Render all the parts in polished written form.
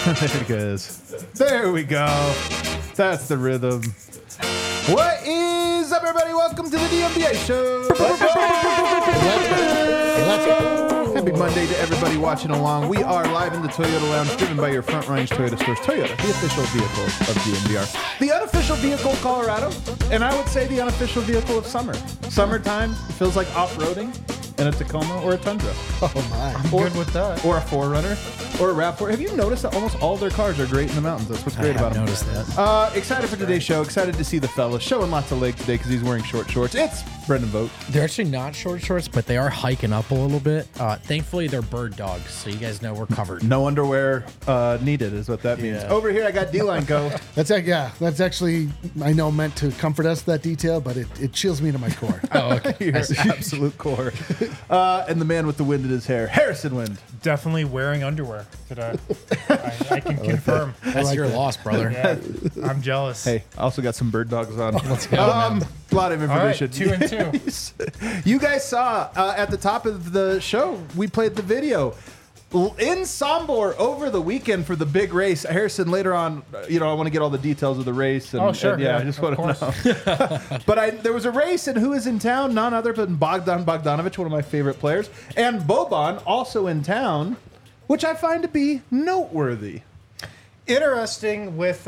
There it goes. There we go. That's the rhythm. What is up, everybody? Welcome to the DMBA show. Let's go. Happy Monday to everybody watching along. We are live in the Toyota Lounge, driven by your Front Range Toyota stores. Toyota, the official vehicle of DMVR. The unofficial vehicle of Colorado, and I would say the unofficial vehicle of summer. Summertime, it feels like off-roading in a Tacoma or a Tundra. Oh my. I'm good with that. Or a 4Runner. Or a RAV4. Have you noticed that almost all their cars are great in the mountains? That's what's great about them. I noticed that. Excited for today's show. Excited to see the fella showing lots of leg today because he's wearing short shorts. It's Brendan Vogt. They're actually not short shorts, but they are hiking up a little bit. Thankfully, they're bird dogs, so you guys know we're covered. No underwear needed is what that means. Yeah. Over here, I got D-Line Co. That's actually, I know, meant to comfort us, that detail, but it chills me to my core. Oh, okay. Your absolute core. And the man with the wind in his hair, Harrison Wind. Definitely wearing underwear today. I can confirm. That's like your that. loss, brother. Yeah, I'm jealous. Hey, I also got some bird dogs on. Let's go, A man. lot of All right, information. 2 and 2. You guys saw at the top of the show, we played the video in Sombor over the weekend for the big race. Harrison, later on, I want to get all the details of the race. And, Oh, sure. and, I just want to know. But there was a race, and who is in town? None other than Bogdan Bogdanovic, one of my favorite players, and Boban, also in town, which I find to be noteworthy. Interesting with,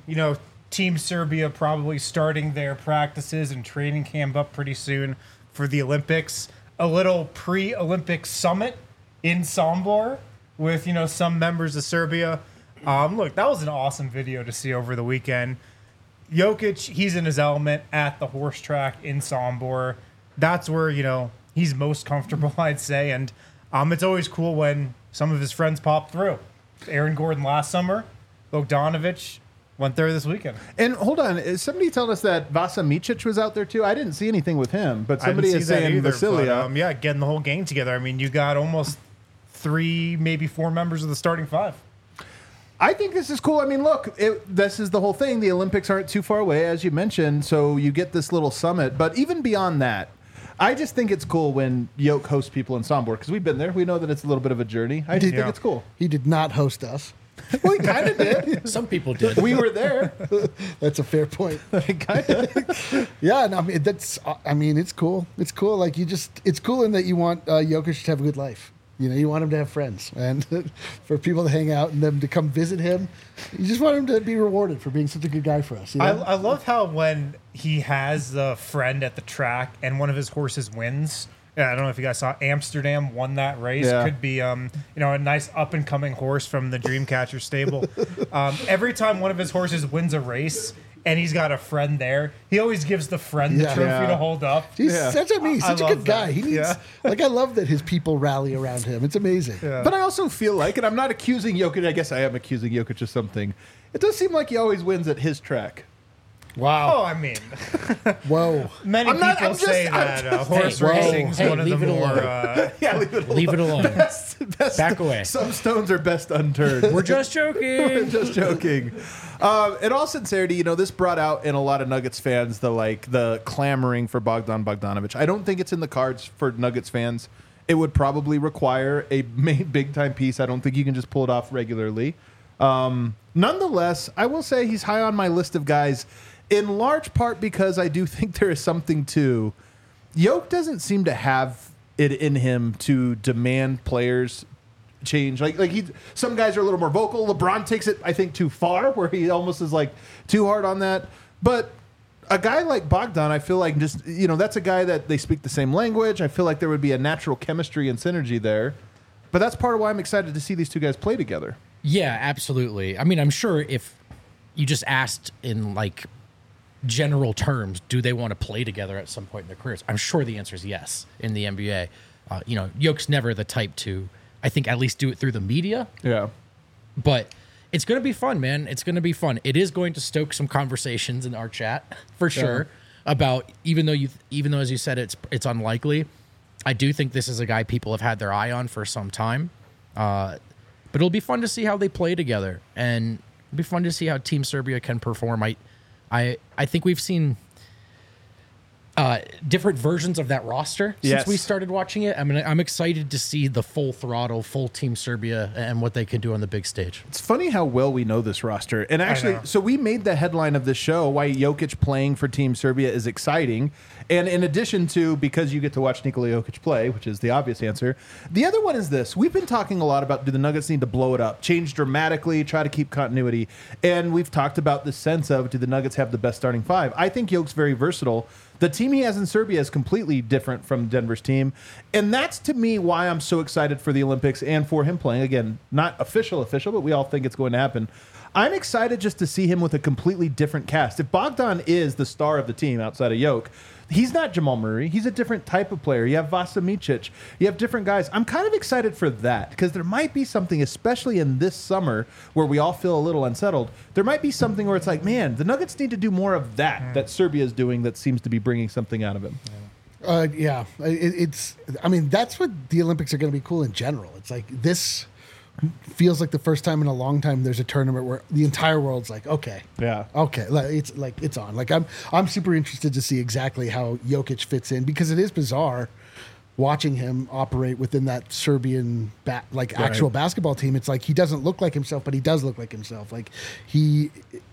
Team Serbia probably starting their practices and training camp up pretty soon for the Olympics. A little pre-Olympic summit in Sombor with, some members of Serbia. Look, that was an awesome video to see over the weekend. Jokic, he's in his element at the horse track in Sombor. That's where, he's most comfortable, I'd say. And it's always cool when some of his friends pop through. Aaron Gordon last summer, Bogdanovic went there this weekend. And hold on, is somebody told us that Vasa Micic was out there too? I didn't see anything with him, but somebody is saying Vasilia. Getting the whole gang together. I mean, you got almost 3, maybe 4 members of the starting 5. I think this is cool. I mean, look, this is the whole thing. The Olympics aren't too far away, as you mentioned, so you get this little summit. But even beyond that, I just think it's cool when Yoke hosts people in Sombor, because we've been there. We know that it's a little bit of a journey. I just think it's cool. He did not host us. Well, he kind of did. Some people did. We were there. That's a fair point. Kind of. Yeah, no, it's cool. It's cool. Like it's cool in that you want Jokic to have a good life. You want him to have friends and for people to hang out and them to come visit him. You just want him to be rewarded for being such a good guy for us. I love how when he has a friend at the track and one of his horses wins. Yeah, I don't know if you guys saw Amsterdam won that race. Yeah. Could be a nice up and coming horse from the Dreamcatcher stable. Every time one of his horses wins a race and he's got a friend there, he always gives the friend the trophy to hold up. He's such a good guy. that. He needs I love that his people rally around him. It's amazing. Yeah. But I also feel like, and I'm not accusing Jokic, I guess I am accusing Jokic of something. It does seem like he always wins at his track. Wow. Oh, I mean, Whoa. many people say that horse racing's one of the leave it more. Yeah, leave it alone. Leave it alone. Back away. Some stones are best unturned. We're just joking. Just joking. In all sincerity, this brought out in a lot of Nuggets fans the clamoring for Bogdan Bogdanovic. I don't think it's in the cards for Nuggets fans. It would probably require a big time piece. I don't think you can just pull it off regularly. Nonetheless, I will say he's high on my list of guys, in large part because I do think there is something to Yoke doesn't seem to have it in him to demand players change. Some guys are a little more vocal. LeBron takes it, I think, too far, where he almost is too hard on that. But a guy like Bogdan, I feel like that's a guy that they speak the same language. I feel like there would be a natural chemistry and synergy there. But that's part of why I'm excited to see these two guys play together. Yeah, absolutely. I mean, I'm sure if you just asked in general terms, do they want to play together at some point in their careers? I'm sure the answer is yes in the NBA. Yoke's never the type to, I think, at least do it through the media. Yeah. But it's going to be fun, man. It's going to be fun. It is going to stoke some conversations in our chat for sure about, even though as you said it's unlikely, I do think this is a guy people have had their eye on for some time. But it'll be fun to see how they play together, and it'll be fun to see how Team Serbia can perform. I think we've seen different versions of that roster since Yes. we started watching it. I mean, I'm excited to see the full throttle, full Team Serbia and what they can do on the big stage. It's funny how well we know this roster. And actually, know. so we made the headline of this show why Jokic playing for Team Serbia is exciting. And in addition to because you get to watch Nikola Jokic play, which is the obvious answer, the other one is this. We've been talking a lot about do the Nuggets need to blow it up, change dramatically, try to keep continuity. And we've talked about the sense of do the Nuggets have the best starting five? I think Jokic's very versatile. The team he has in Serbia is completely different from Denver's team. And that's, to me, why I'm so excited for the Olympics and for him playing. Again, not official, but we all think it's going to happen. I'm excited just to see him with a completely different cast. If Bogdan is the star of the team outside of Jokic, he's not Jamal Murray. He's a different type of player. You have Vasa Micic. You have different guys. I'm kind of excited for that because there might be something, especially in this summer where we all feel a little unsettled. There might be something where it's like, man, the Nuggets need to do more of that Serbia is doing that seems to be bringing something out of him. Yeah, it's. I mean, that's what the Olympics are going to be cool in general. It's like this feels like the first time in a long time there's a tournament where the entire world's like, okay, it's on. Like I'm super interested to see exactly how Jokic fits in because it is bizarre watching him operate within that Serbian actual basketball team. It's like he doesn't look like himself, but he does look like himself. Like he's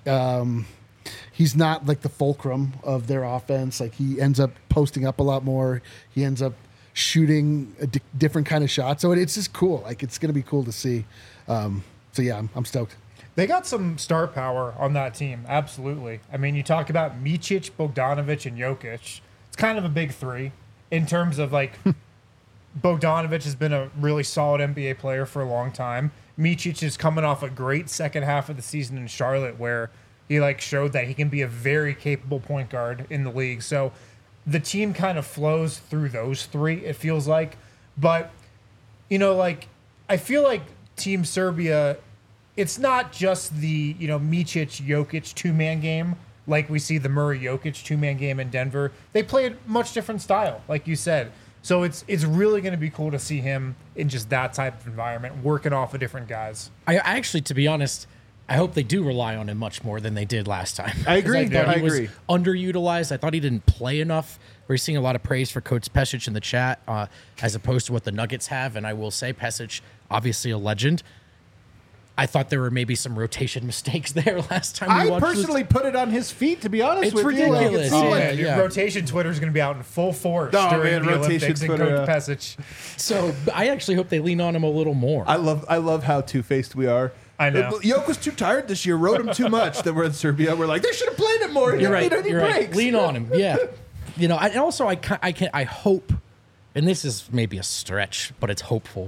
not like the fulcrum of their offense. Like he ends up posting up a lot more. He ends up shooting a different kind of shot. So it's just cool. Like it's going to be cool to see. So yeah, I'm stoked. They got some star power on that team. Absolutely. I mean, you talk about Micic, Bogdanovic, and Jokic. It's kind of a big three in terms of like Bogdanovic has been a really solid NBA player for a long time. Micic is coming off a great second half of the season in Charlotte where he like showed that he can be a very capable point guard in the league. So the team kind of flows through those three, it feels like. But, you know, like, I feel like Team Serbia, it's not just the, you know, Micic-Jokic two-man game like we see the Murray-Jokic two-man game in Denver. They play a much different style, like you said. So it's really going to be cool to see him in just that type of environment, working off of different guys. I actually, to be honest, I hope they do rely on him much more than they did last time. I agree. 'Cause I thought he agree. was underutilized. I thought he didn't play enough. We're seeing a lot of praise for Coach Pesic in the chat, as opposed to what the Nuggets have. And I will say, Pesic, obviously a legend. I thought there were maybe some rotation mistakes there last time we I watched personally put it on his feet, to be honest It's with you. Like, ridiculous. it seemed Yeah, like Dude, yeah. rotation Twitter is going to be out in full force Oh, during man, the rotation Olympics and Twitter, Coach Pesic. So I actually hope they lean on him a little more. I love how two-faced we are. I know. Jokic was too tired this year, rode him too much that we're in Serbia. We're like, they should have played him more. He You're didn't right. need any You're right. breaks. Lean on him. Yeah. You know, and also I hope, and this is maybe a stretch, but it's hopeful.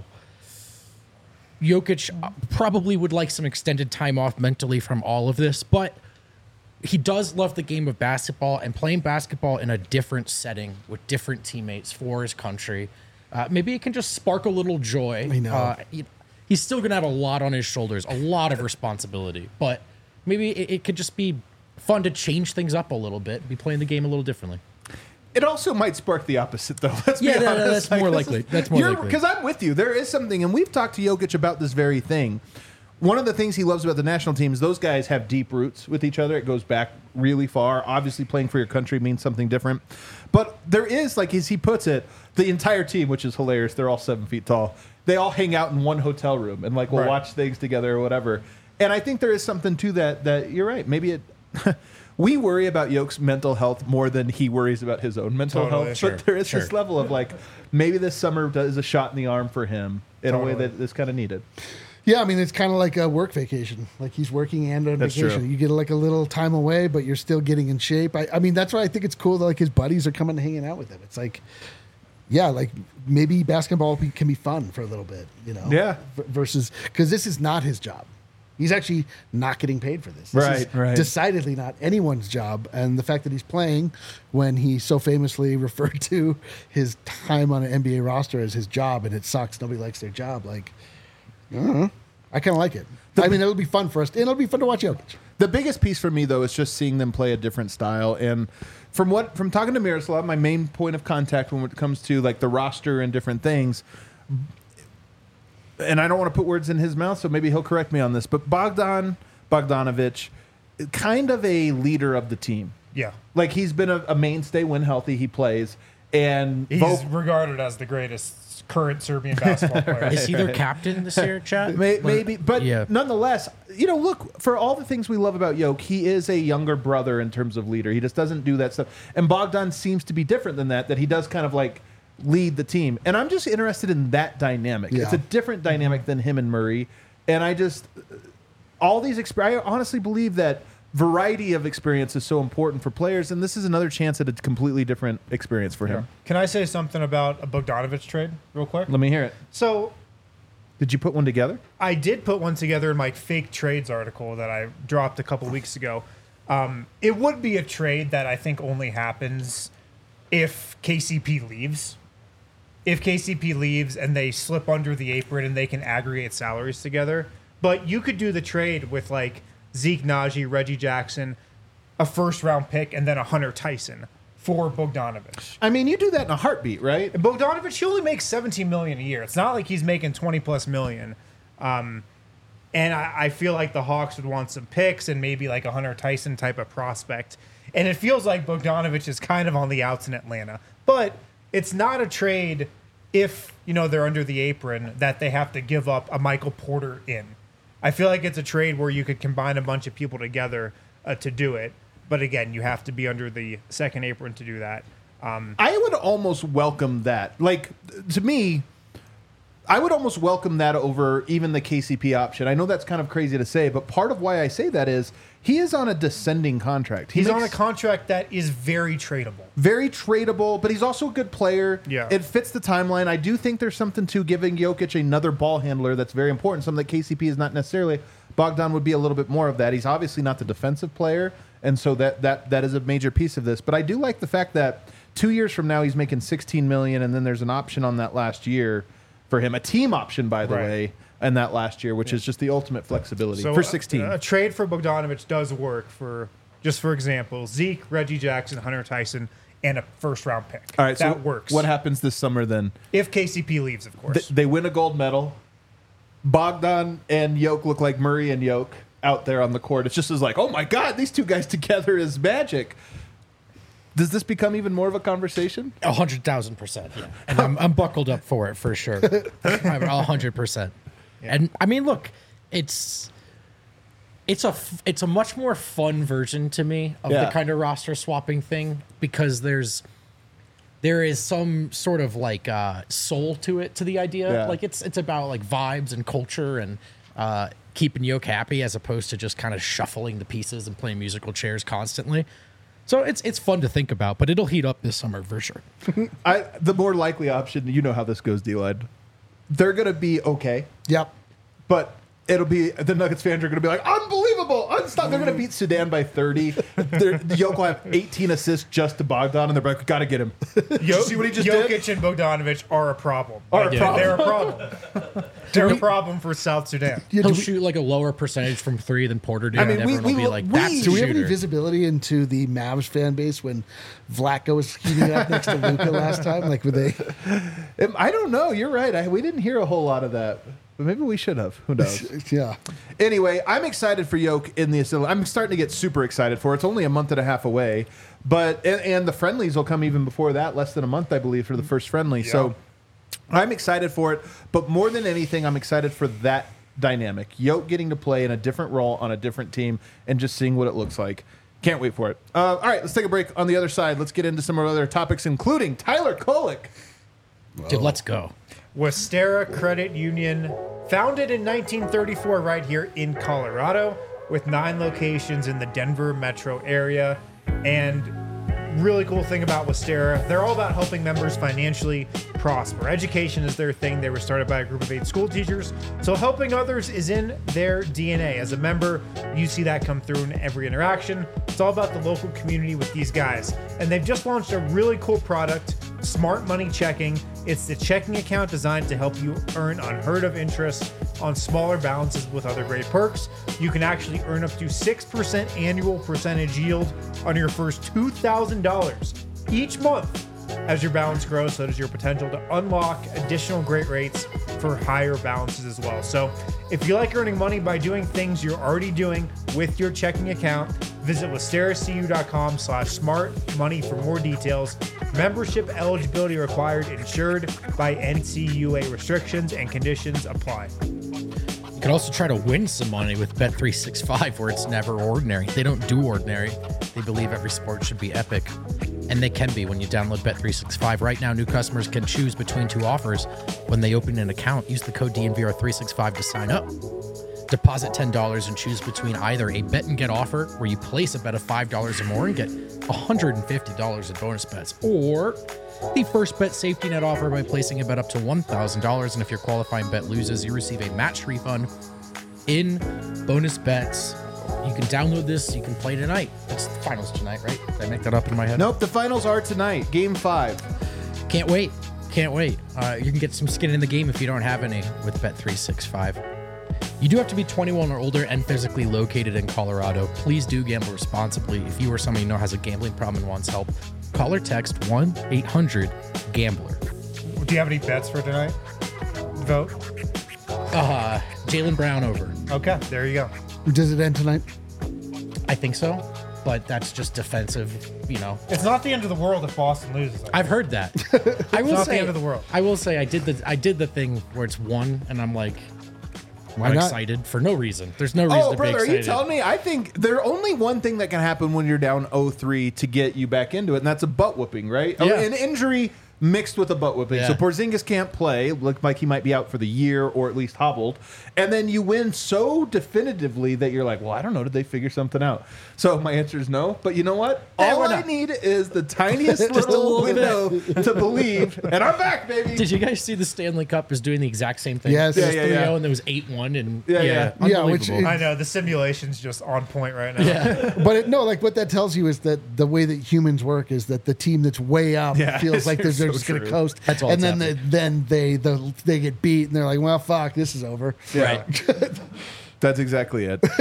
Jokic probably would like some extended time off mentally from all of this, but he does love the game of basketball and playing basketball in a different setting with different teammates for his country. Maybe it can just spark a little joy. I know. He's still going to have a lot on his shoulders, a lot of responsibility, but maybe it could just be fun to change things up a little bit, be playing the game a little differently. It also might spark the opposite, though. Let's Yeah, be that- honest. that's more this likely. is- That's more likely. Because I'm with you. There is something, and we've talked to Jokic about this very thing. One of the things he loves about the national team is those guys have deep roots with each other. It goes back really far. Obviously, playing for your country means something different. But there is, like as he puts it, the entire team, which is hilarious. They're all 7 feet tall. They all hang out in one hotel room and like will Right. watch things together or whatever. And I think there is something to that. That you're right. Maybe it. We worry about Jokic's mental health more than he worries about his own mental Totally, health. sure, But there is this level of like, maybe this summer is a shot in the arm for him in a way Totally. that is kind of needed. Yeah, I mean, it's kind of like a work vacation. Like he's working and on That's vacation. true. You get like a little time away, but you're still getting in shape. I mean, that's why I think it's cool that like his buddies are coming and hanging out with him. It's like, yeah, like maybe basketball can be fun for a little bit, you know? Yeah. Versus, because this is not his job. He's actually not getting paid for this. This Right, is right. decidedly not anyone's job. And the fact that he's playing when he so famously referred to his time on an NBA roster as his job, and it sucks. Nobody likes their job. Like, I don't know. I kind of like it. I mean, it'll be fun for us, and it'll be fun to watch Jokic. The biggest piece for me, though, is just seeing them play a different style. And from talking to Miroslav, my main point of contact when it comes to like the roster and different things, and I don't want to put words in his mouth, so maybe he'll correct me on this, but Bogdanovic, kind of a leader of the team. Yeah. Like, he's been a mainstay when healthy. He plays. And He's regarded as the greatest current Serbian basketball player. Is he their captain this year, Chad? Maybe, but yeah. nonetheless, look, for all the things we love about Jokic, he is a younger brother in terms of leader. He just doesn't do that stuff. And Bogdan seems to be different than that he does kind of like lead the team. And I'm just interested in that dynamic. Yeah. It's a different dynamic than him and Murray. And I honestly believe that variety of experience is so important for players, and this is another chance at a completely different experience for him. Can I say something about a Bogdanovich trade real quick? Let me hear it. So Did you put one together? I did put one together in my fake trades article that I dropped a couple weeks ago. It would be a trade that I think only happens if KCP leaves. If KCP leaves and they slip under the apron and they can aggregate salaries together. But you could do the trade with like Zeke Naji, Reggie Jackson, a first-round pick, and then a Hunter Tyson for Bogdanovich. I mean, you do that in a heartbeat, right? And Bogdanovich, he only makes $17 million a year. It's not like he's making $20+ million. And I feel like the Hawks would want some picks and maybe like a Hunter Tyson type of prospect. And it feels like Bogdanovich is kind of on the outs in Atlanta. But it's not a trade if, they're under the apron that they have to give up a Michael Porter in. I feel like it's a trade where you could combine a bunch of people together to do it. But again, you have to be under the second apron to do that. I would almost welcome that. Like, to me, I would almost welcome that over even the KCP option. I know that's kind of crazy to say, but part of why I say that is he is on a descending contract. He's on a contract that is very tradable. Very tradable, but he's also a good player. Yeah. It fits the timeline. I do think there's something to giving Jokic another ball handler that's very important, something that KCP is not necessarily. Bogdan would be a little bit more of that. He's obviously not the defensive player, and so that is a major piece of this. But I do like the fact that 2 years from now he's making $16 million, and then there's an option on that last year for him, a team option, by the way, in that last year, which is just the ultimate flexibility for 16. A trade for Bogdanovich does work for, just for example, Zeke, Reggie Jackson, Hunter Tyson, and a first-round pick. All right, that so works. What happens this summer then? If KCP leaves, of course. They win a gold medal. Bogdan and Jokic look like Murray and Jokic out there on the court. It's just as like, oh my God, these two guys together is magic. Does this become even more of a conversation? 100,000%. Yeah. And I'm buckled up for it for sure. 100%. Yeah. And I mean, look, it's a much more fun version to me of the kind of roster swapping thing because there is some sort of like soul to it, to the idea. Yeah. Like it's about like vibes and culture and keeping Jokic happy as opposed to just kind of shuffling the pieces and playing musical chairs constantly. So it's fun to think about, but it'll heat up this summer for sure. The more likely option, you know how this goes, D-Line. They're going to be okay. Yep. But it'll be, the Nuggets fans are going to be like, unbelievable, unstoppable. They're going to beat Sudan by 30. Jokic will have 18 assists just to Bogdan, and they're like, got to get him. See what he just Jokic did? and Bogdanovich are a problem. Are a problem. They're a problem. They're a problem for South Sudan. He'll shoot like a lower percentage from three than Porter did. I mean, and everyone will be like, that's Do the we have any shooter. visibility into the Mavs fan base when Vlatko was heating up next to Luka last time? Like, were they? I don't know. You're right. We didn't hear a whole lot of that. But maybe we should have. Who knows? Yeah. Anyway, I'm excited for Jokic in the assembly. I'm starting to get super excited for it. It's only a month and a half away. But and the friendlies will come even before that, less than a month, I believe, for the first friendly. Yeah. So I'm excited for it. But more than anything, I'm excited for that dynamic. Jokic getting to play in a different role on a different team and just seeing what it looks like. Can't wait for it. All right, let's take a break. On the other side, let's get into some other topics, including Tyler Kolek. Dude, let's go. Westera Credit Union, founded in 1934 right here in Colorado, with 9 locations in the Denver metro area. And really cool thing about Westera, they're all about helping members financially prosper. Education is their thing. They were started by a group of 8 school teachers, so helping others is in their DNA. As a member, you see that come through in every interaction. It's all about the local community with these guys. And they've just launched a really cool product, Smart Money Checking. It's the checking account designed to help you earn unheard of interest on smaller balances with other great perks. You can actually earn up to 6% annual percentage yield on your first $2,000 each month. As your balance grows, so does your potential to unlock additional great rates for higher balances as well. So if you like earning money by doing things you're already doing with your checking account, Visit listeracu.com/smart money for more details. Membership eligibility required, insured by NCUA. Restrictions and conditions apply. You can also try to win some money with Bet365, where it's never ordinary. They don't do ordinary. They believe every sport should be epic. And they can be when you download Bet365. Right now, new customers can choose between two offers when they open an account. Use the code DNVR365 to sign up. Deposit $10 and choose between either a bet and get offer, where you place a bet of $5 or more and get $150 in bonus bets, or the first bet safety net offer by placing a bet up to $1,000. And if your qualifying bet loses, you receive a match refund in bonus bets. You can download this. You can play tonight. It's the finals tonight, right? Did I make that up in my head? Nope, the finals are tonight. Game 5. Can't wait. Can't wait. You can get some skin in the game if you don't have any with Bet365. You do have to be 21 or older and physically located in Colorado. Please do gamble responsibly. If you or somebody you know has a gambling problem and wants help, call or text 1-800-GAMBLER. Do you have any bets for tonight? Vote. Jaylen Brown over. Okay, there you go. Does it end tonight? I think so, but that's just defensive, you know. It's not the end of the world if Boston loses. I've heard that. I will not say, the end of the world. I will say I did the thing where it's one, and I'm like, Why I'm not? excited for no reason. There's no reason Oh, to brother, be are excited. you telling me? I think there's only one thing that can happen when you're down 0-3 to get you back into it, and that's a butt whooping, right? Yeah. An injury mixed with a butt whooping. Yeah. So Porzingis can't play. Looked like he might be out for the year or at least hobbled. And then you win so definitively that you're like, well, I don't know. Did they figure something out? So my answer is no. But you know what? All we're I not. need is the tiniest Just a little little window to believe. And I'm back, baby. Did you guys see the Stanley Cup is doing the exact same thing? Yes. It was Yeah, 3-0 yeah. and there was 8-1 and Yeah, Yeah, which unbelievable. I know the simulation's just on point right now. Yeah. But no, like what that tells you is that the way that humans work is that the team that's way up Yeah, feels like they're so just going to true. coast, That's all and that's then they get beat, and they're like, well, fuck, this is over. Right. That's exactly it. The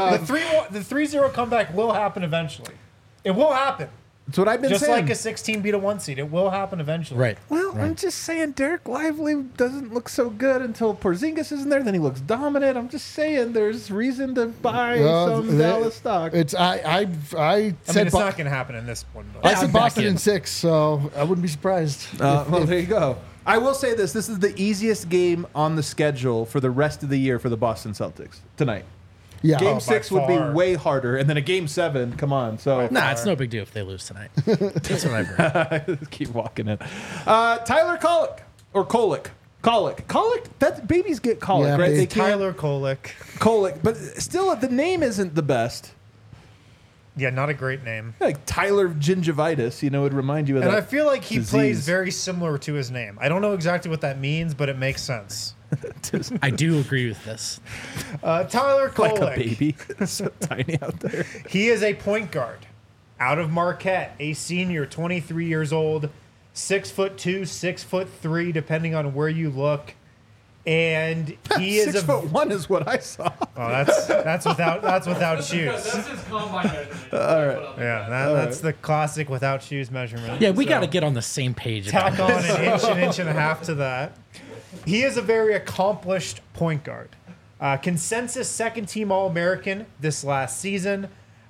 3-0 comeback will happen eventually. It will happen. That's what I've been Just saying. like a 16 beat a 1 seed. It will happen eventually. Right. Well, I'm just saying Derek Lively doesn't look so good until Porzingis isn't there. Then he looks dominant. I'm just saying there's reason to buy some Dallas stock. It's I I mean, said it's not going to happen in this one. But I I'm said back Boston in. in 6, so I wouldn't be surprised. Well, there you go. I will say this. This is the easiest game on the schedule for the rest of the year for the Boston Celtics tonight. Yeah, Game by 6 would be far. way harder. And then a Game 7, come on. So Nah, it's no big deal if they lose tonight. That's what I've heard. keep walking it. Tyler Kolek. Or Kolek. Kolek? That babies get colic, Yeah, right? baby. They can't Tyler Kolek. Kolek. But still, the name isn't the best. Yeah, not a great name. Like Tyler Gingivitis, you know, would remind you of And that. I feel like he disease. plays very similar to his name. I don't know exactly what that means, but it makes sense. I do agree with this. Tyler like Kolek. a baby. So tiny out there. He is a point guard out of Marquette, a senior, 23 years old, 6'2", 6'3", depending on where you look. And he is 6'1" is what I saw. Oh, that's without shoes. That's his combine measurement. Yeah, that's the classic without shoes measurement. Yeah, we So, got to get on the same page. about tack on an inch and a half to that. He is a very accomplished point guard. Consensus second team All-American this last season.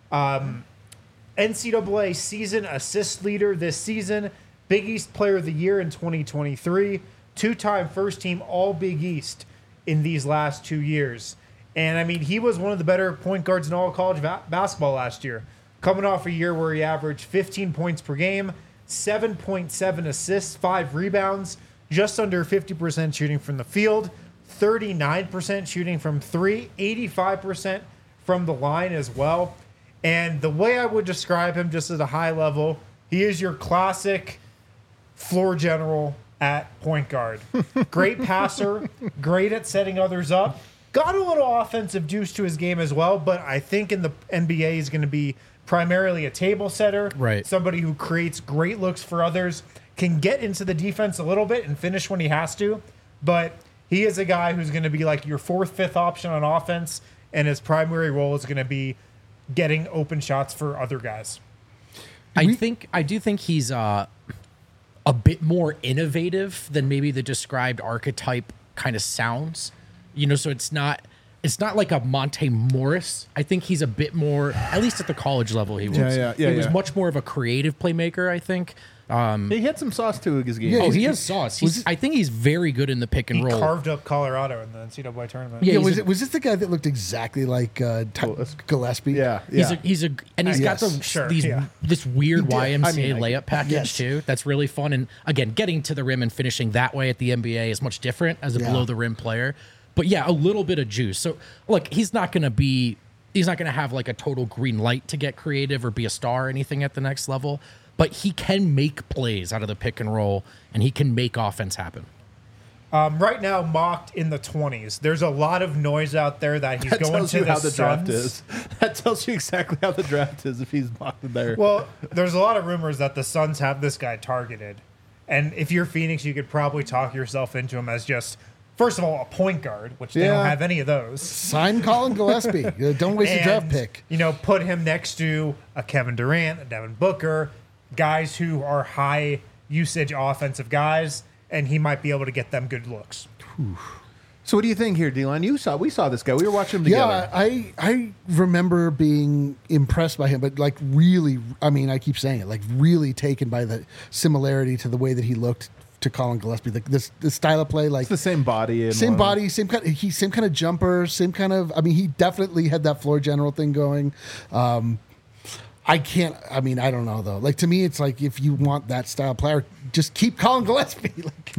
NCAA season assist leader this season. Big East Player of the Year in 2023. Two-time first team All Big East in these last 2 years. And I mean, he was one of the better point guards in all of college basketball last year. Coming off a year where he averaged 15 points per game, 7.7 assists, 5 rebounds, just under 50% shooting from the field, 39% shooting from 3, 85% from the line as well. And the way I would describe him just at a high level, he is your classic floor general at point guard. Great passer, great at setting others up. Got a little offensive juice to his game as well, but I think in the NBA he's going to be primarily a table setter. Right. Somebody who creates great looks for others, can get into the defense a little bit and finish when he has to. But he is a guy who's going to be like your 4th, 5th option on offense, and his primary role is going to be getting open shots for other guys. I do think he's a bit more innovative than maybe the described archetype kind of sounds. You know, so it's not it's not like a Monte Morris. I think he's a bit more, at least at the college level, he was. He was much more of a creative playmaker, I think. He had some sauce to his game. He has sauce. I think he's very good in the pick and He roll. carved up Colorado in the NCAA tournament. Yeah, was this the guy that looked exactly like Gillespie? Yeah. He's got this weird YMCA layup package too. That's really fun. And again, getting to the rim and finishing that way at the NBA is much different as a below the rim player. But yeah, a little bit of juice. So look, he's not going to have like a total green light to get creative or be a star or anything at the next level. But he can make plays out of the pick and roll, and he can make offense happen. Right now, mocked in the 20s. There's a lot of noise out there that he's going to the draft Suns. is. That tells you exactly how the draft is if he's mocked there. Well, there's a lot of rumors that the Suns have this guy targeted. And if you're Phoenix, you could probably talk yourself into him as just, first of all, a point guard, which they don't have any of those. Sign Colin Gillespie. Don't waste a draft pick. Put him next to a Kevin Durant, a Devin Booker, guys who are high usage offensive guys, and he might be able to get them good looks. So what do you think here, D-Line? We saw this guy. We were watching him together. Yeah, I remember being impressed by him, but like really, I mean, I keep saying it, like really taken by the similarity to the way that he looked to Colin Gillespie. Like this style of play, like it's the same body, same kind of jumper, same kind of. I mean, he definitely had that floor general thing going. I don't know though. Like to me, it's like if you want that style player, just keep Colin Gillespie.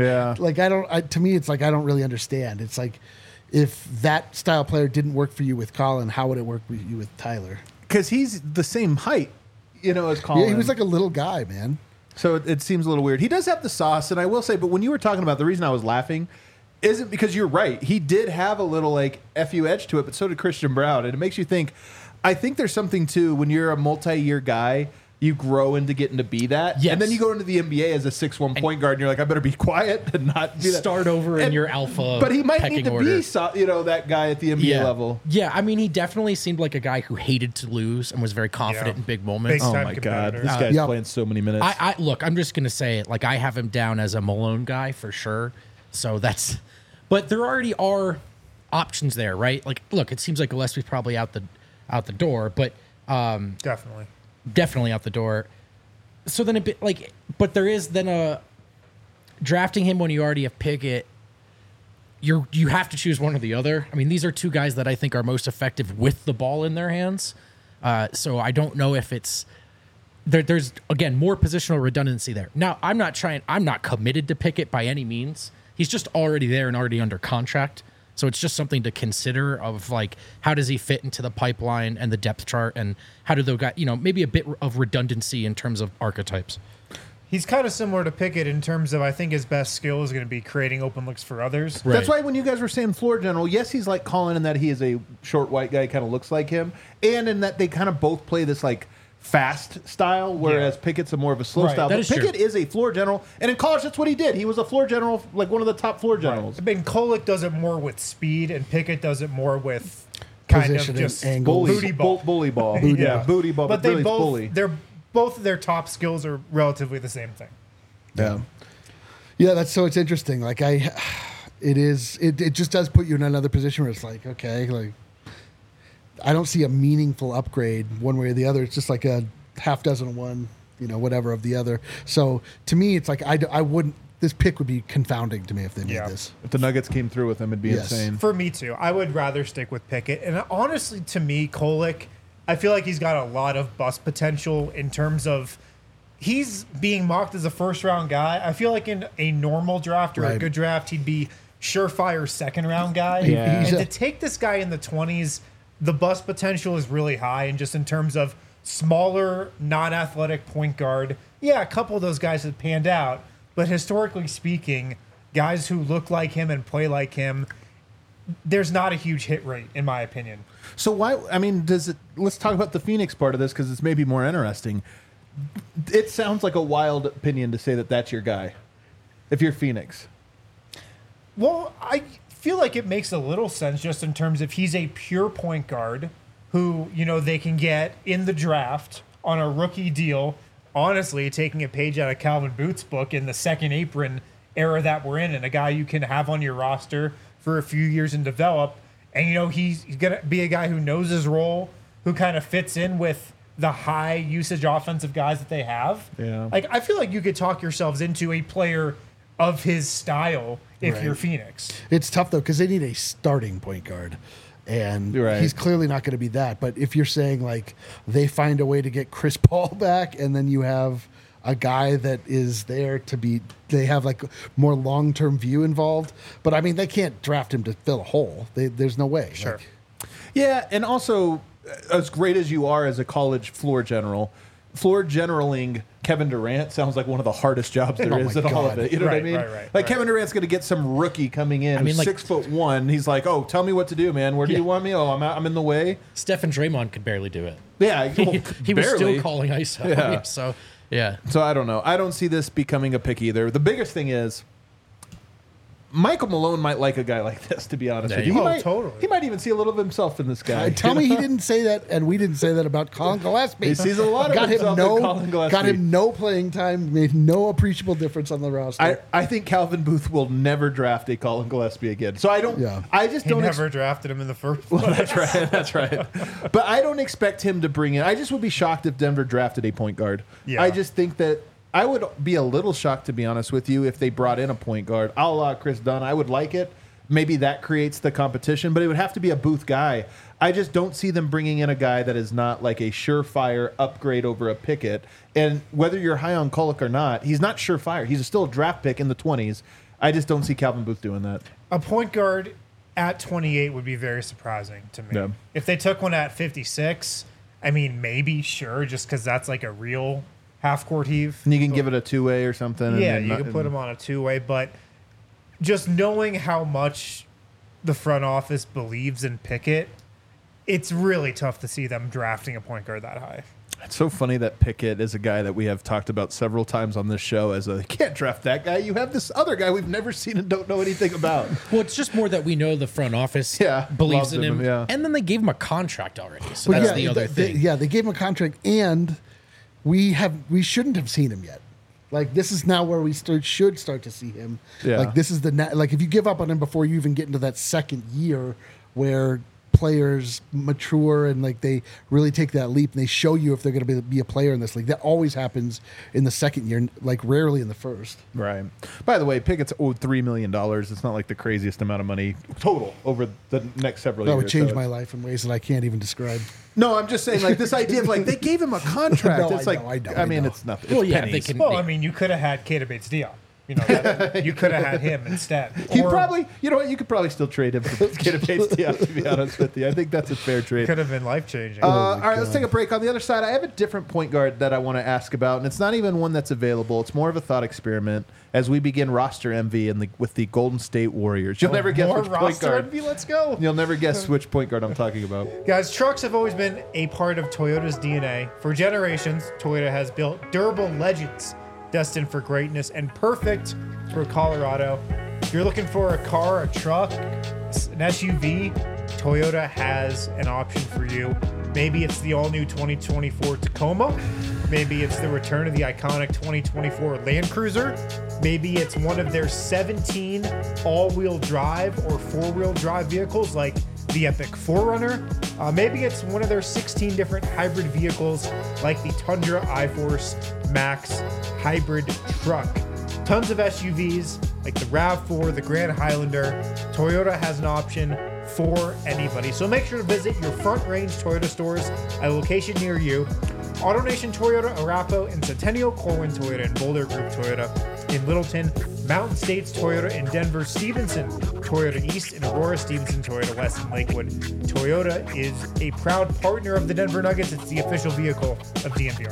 To me, it's like I don't really understand. It's like if that style player didn't work for you with Colin, how would it work with you with Tyler? Because he's the same height, as Colin. Yeah, he was like a little guy, man. So it seems a little weird. He does have the sauce, and I will say, but when you were talking about the reason I was laughing isn't because you're right. He did have a little like FU edge to it, but so did Christian Braun, and it makes you think. I think there's something too when you're a multi-year guy, you grow into getting to be that, and then you go into the NBA as a 6'1" point guard, and you're like, I better be quiet and not be that. Start over in your alpha. But he might need to order. be, that guy at the NBA level. Yeah, I mean, he definitely seemed like a guy who hated to lose and was very confident in big moments. Oh my god, this guy's playing so many minutes. Look, I'm just gonna say it. Like I have him down as a Malone guy for sure. So that's, but there already are options there, right? Like, look, it seems like Gillespie's probably out the door, but definitely out the door. So then but there is then a drafting him when you already have Pickett. You have to choose one or the other. I mean, these are two guys that I think are most effective with the ball in their hands. So I don't know if it's there's again more positional redundancy there. Now I'm not committed to Pickett by any means. He's just already there and already under contract. So it's just something to consider of like, how does he fit into the pipeline and the depth chart, and how do those guys, maybe a bit of redundancy in terms of archetypes. He's kind of similar to Pickett in terms of I think his best skill is going to be creating open looks for others. Right. That's why when you guys were saying floor general, yes, he's like Colin in that he is a short white guy, kind of looks like him, and in that they kind of both play this like fast style, whereas Pickett's a more of a slow style. But Pickett is a floor general, and in college, that's what he did. He was a floor general, like one of the top floor generals. I mean, Kolek does it more with speed, and Pickett does it more with kind of just booty ball. Bully ball. Booty ball. But they both, both of their top skills are relatively the same thing. Yeah, it's interesting. Like it just does put you in another position where it's like, okay, like I don't see a meaningful upgrade one way or the other. It's just like a half dozen of one, whatever of the other. So to me, it's like I wouldn't. This pick would be confounding to me if they made this. If the Nuggets came through with him, it'd be insane. For me too. I would rather stick with Pickett. And honestly, to me, Kolek, I feel like he's got a lot of bust potential in terms of he's being mocked as a first-round guy. I feel like in a normal draft or a good draft, he'd be surefire second-round guy. Yeah. And to take this guy in the 20s, the bust potential is really high. And just in terms of smaller, non-athletic point guard, a couple of those guys have panned out. But historically speaking, guys who look like him and play like him, there's not a huge hit rate, in my opinion. So why? I mean, let's talk about the Phoenix part of this because it's maybe more interesting. It sounds like a wild opinion to say that that's your guy, if you're Phoenix. Well, I feel like it makes a little sense just in terms of he's a pure point guard who, they can get in the draft on a rookie deal. Honestly, taking a page out of Calvin Booth's book in the second apron era that we're in, and a guy you can have on your roster for a few years and develop. And, he's going to be a guy who knows his role, who kind of fits in with the high usage offensive guys that they have. Yeah. Like, I feel like you could talk yourselves into a player of his style if Right. you're Phoenix. It's tough though because they need a starting point guard, and Right. he's clearly not going to be that. But if you're saying like they find a way to get Chris Paul back, and then you have a guy that is there to be, they have like more long term view involved. But I mean, they can't draft him to fill a hole. There's no way. Sure. Like, Yeah, and also, as great as you are as a college floor generaling Kevin Durant sounds like one of the hardest jobs there Oh is my in all of God. it. You know what I Right, mean? right, Like Kevin Durant's going to get some rookie coming in, I mean, who's like- 6'1". He's like, "Oh, tell me what to do, man. Where do you want me? Oh, I'm in the way." Steph and Draymond could barely do it. Yeah, well, He was barely. still calling ISO. Yeah. So, yeah. So I don't know. I don't see this becoming a pick either. The biggest thing is Michael Malone might like a guy like this, to be honest Yeah, with you. he- He Oh, might, totally. He might even see a little of himself in this guy. tell me he didn't say that, and we didn't say that about Colin Gillespie. He sees a lot of got him himself in no, Colin Gillespie. got him no playing time, made no appreciable difference on the roster. I think Calvin Booth will never draft a Colin Gillespie again. So I don't. Yeah. I just He don't. never drafted him in the first place. That's right. That's right. But I don't expect him to bring in. I just would be shocked if Denver drafted a point guard. Yeah. I just think that I would be a little shocked, to be honest with you, if they brought in a point guard a la Chris Dunn. I would like it. Maybe that creates the competition, but it would have to be a Booth guy. I just don't see them bringing in a guy that is not like a surefire upgrade over a Pickett. And whether you're high on Kolek or not, he's not surefire. He's still a draft pick in the 20s. I just don't see Calvin Booth doing that. A point guard at 28 would be very surprising to me. Yeah. If they took one at 56, I mean, maybe, sure, just because that's like a real half-court heave. And you can give it a two-way or something. and Yeah, then you not- can put him on a two-way, but just knowing how much the front office believes in Pickett, it's really tough to see them drafting a point guard that high. It's so funny that Pickett is a guy that we have talked about several times on this show as a, you can't draft that guy. You have this other guy we've never seen and don't know anything about. Well, it's just more that we know the front office Yeah, believes loves in him, him. yeah. And then they gave him a contract already. So But that's yeah, the other thing. They gave him a contract, and we shouldn't have seen him yet. Like this is now where we should start to see him. Yeah. Like this is like if you give up on him before you even get into that second year where players mature and like they really take that leap and they show you if they're going to be a player in this league. That always happens in the second year, like rarely in the first. Right. By the way, Pickett's owed $3 million. It's not like the craziest amount of money total over the next several That years. would change so my it's- life in ways that I can't even describe. No, I'm just saying, like, this idea of, like, they gave him a contract. No, it's I like, know, I mean, know. it's nothing. Well, It's yeah, pennies. they can. Well, I mean, you could have had Keita Bates-Diop. You know, you could have had him instead. You Or probably, you know what, you could probably still trade him for Kid Bates, to be honest with you. I think that's a fair trade. could have been life-changing. All right, let's take a break. On the other side, I have a different point guard that I want to ask about, and it's not even one that's available. It's more of a thought experiment as we begin roster MV with the Golden State Warriors. You'll never guess More which point roster guard. envy, let's go. You'll never guess which point guard I'm talking about. Guys, trucks have always been a part of Toyota's DNA. For generations, Toyota has built durable legends destined for greatness and perfect for Colorado. If you're looking for a car, a truck, an SUV, Toyota has an option for you. Maybe it's the all-new 2024 Tacoma. Maybe it's the return of the iconic 2024 Land Cruiser. Maybe it's one of their 17 all-wheel drive or four-wheel drive vehicles like the Epic 4Runner. Maybe it's one of their 16 different hybrid vehicles like the Tundra iForce Max hybrid truck. Tons of SUVs like the RAV4, the Grand Highlander. Toyota has an option for anybody. So make sure to visit your Front Range Toyota stores at a location near you. AutoNation Toyota, Arapahoe, and Centennial, Corwin Toyota, and Boulder Group Toyota in Littleton, Mountain States Toyota in Denver, Stevenson Toyota East, and Aurora Stevenson Toyota West in Lakewood. Toyota is a proud partner of the Denver Nuggets. It's the official vehicle of DNVR.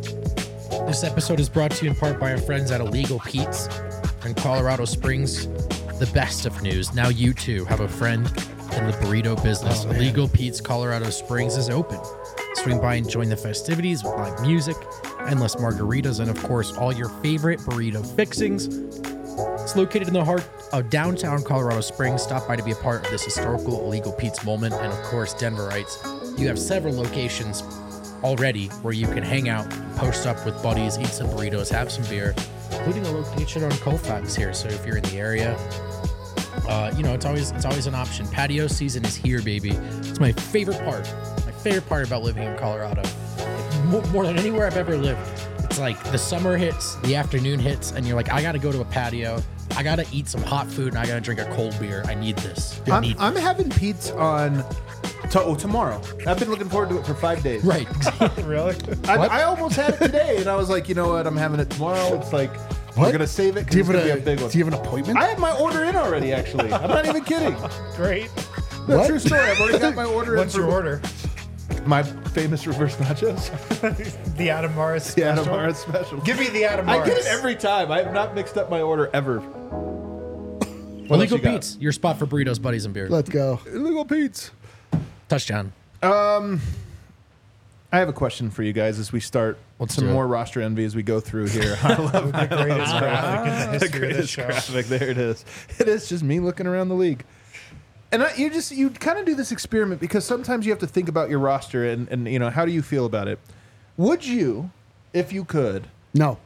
This episode is brought to you in part by our friends at Illegal Pete's in Colorado Springs. The best of news. Now you too have a friend in the burrito business. Illegal Pete's Colorado Springs is open. Swing by and join the festivities with live music, endless margaritas, and of course, all your favorite burrito fixings. It's located in the heart of downtown Colorado Springs. Stop by to be a part of this historical Illegal Pete's moment. And of course, Denverites, you have several locations already where you can hang out, post up with buddies, eat some burritos, have some beer, including a location on Colfax here. So if you're in the area, it's always an option. Patio season is here, baby. It's my favorite part. My favorite part about living in Colorado, like, more than anywhere I've ever lived. It's like the summer hits, the afternoon hits, and you're like, I got to go to a patio. I got to eat some hot food, and I got to drink a cold beer. I need this. I'm having Pete's on tomorrow. I've been looking forward to it for 5 days. Right. Really? I almost had it today, and I was like, you know what? I'm having it tomorrow. It's like, we're going to save it Do you because it's have going to be a big one. Do you have an appointment? I have my order in already, actually. I'm not even kidding. Great. No, What? true story. I've already got my order in. What's your order? My famous reverse nachos. The Adam Morris The special? Adam Morris special. Give me the Adam I Morris. get it every time. I have not mixed up my order ever. Illegal you got? Pete's, your spot for burritos, buddies, and beer. Let's go. Illegal Pete's. Touchdown. I have a question for you guys as we start Let's some do it. more roster envy as we go through here. I love The greatest graphic in the history of this greatest show. graphic. There it is. It is just me looking around the league. And you kind of do this experiment because sometimes you have to think about your roster and you know, how do you feel about it? Would you, if you could, No.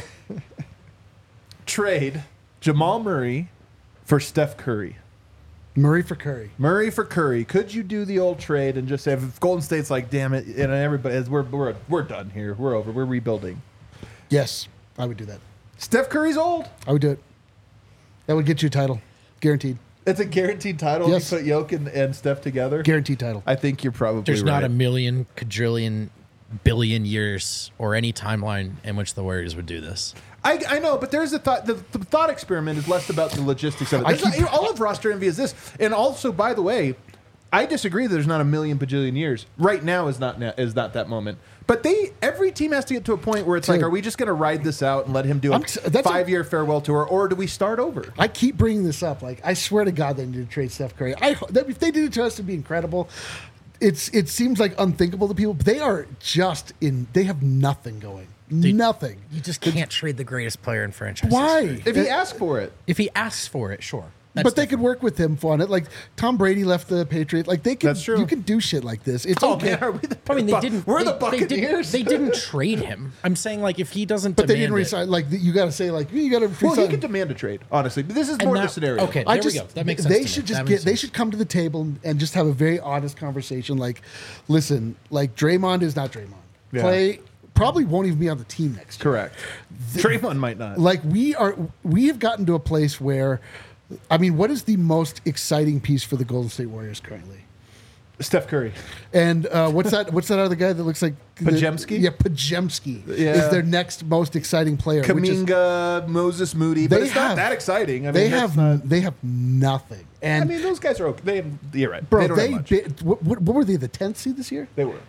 trade Jamal Murray for Steph Curry? Murray for Curry. Murray for Curry. Could you do the old trade and just say, if Golden State's like, damn it, and everybody, we're done here, we're over, we're rebuilding. Yes, I would do that. Steph Curry's old. I would do it. That would get you a title. Guaranteed. It's a guaranteed title. Yes. You put Jokic and Steph together. Guaranteed title. I think you're probably There's right. not a million, quadrillion, billion years or any timeline in which the Warriors would do this. I know, but there's a thought. The thought experiment is less about the logistics of it. I There's keep- not- all of roster envy is this, and also, by the way, I disagree. That there's not a million bajillion years. Right now is not that moment. But every team has to get to a point where it's like, Dude. are we just going to ride this out and let him do a That's a- 5-year farewell tour, or do we start over? I keep bringing this up. Like, I swear to God, they need to trade Steph Curry. If they did it to us, it'd be incredible. It seems like unthinkable to people, but they are just they have nothing going. Nothing. You just can't trade the greatest player in franchise Why? history. If he asks for it, If he asks for it, sure. But they could work with him on it. Like Tom Brady left the Patriots. Like they could. That's true. You can do shit like this. It's oh okay. man, are we the? I mean, they didn't. We're they, the Buccaneers. They didn't trade him. I'm saying, like, if he doesn't, But they demand didn't it- resign. Like you got to say, like you got to. Well, he could demand a trade. Honestly, but this is And more that- the scenario. okay. There we go. That makes sense They to me. should That just makes They sense. should come to the table and just have a very honest conversation. Like, listen, like Draymond is not Draymond. Yeah. Clay probably won't even be on the team next year. Correct. Draymond might not. Like we have gotten to a place where, I mean, what is the most exciting piece for the Golden State Warriors currently? Steph Curry. And what's that? What's that other guy that looks like Pajemski? Yeah, Pajemski Yeah. is their next most exciting player. which is- Kaminga, Moses Moody, but They it's not have- that exciting. I mean, they that's have not- they have nothing. And I mean, those guys are okay. You're right. bro, they don't have much. what were they? The 10th seed this year? They were.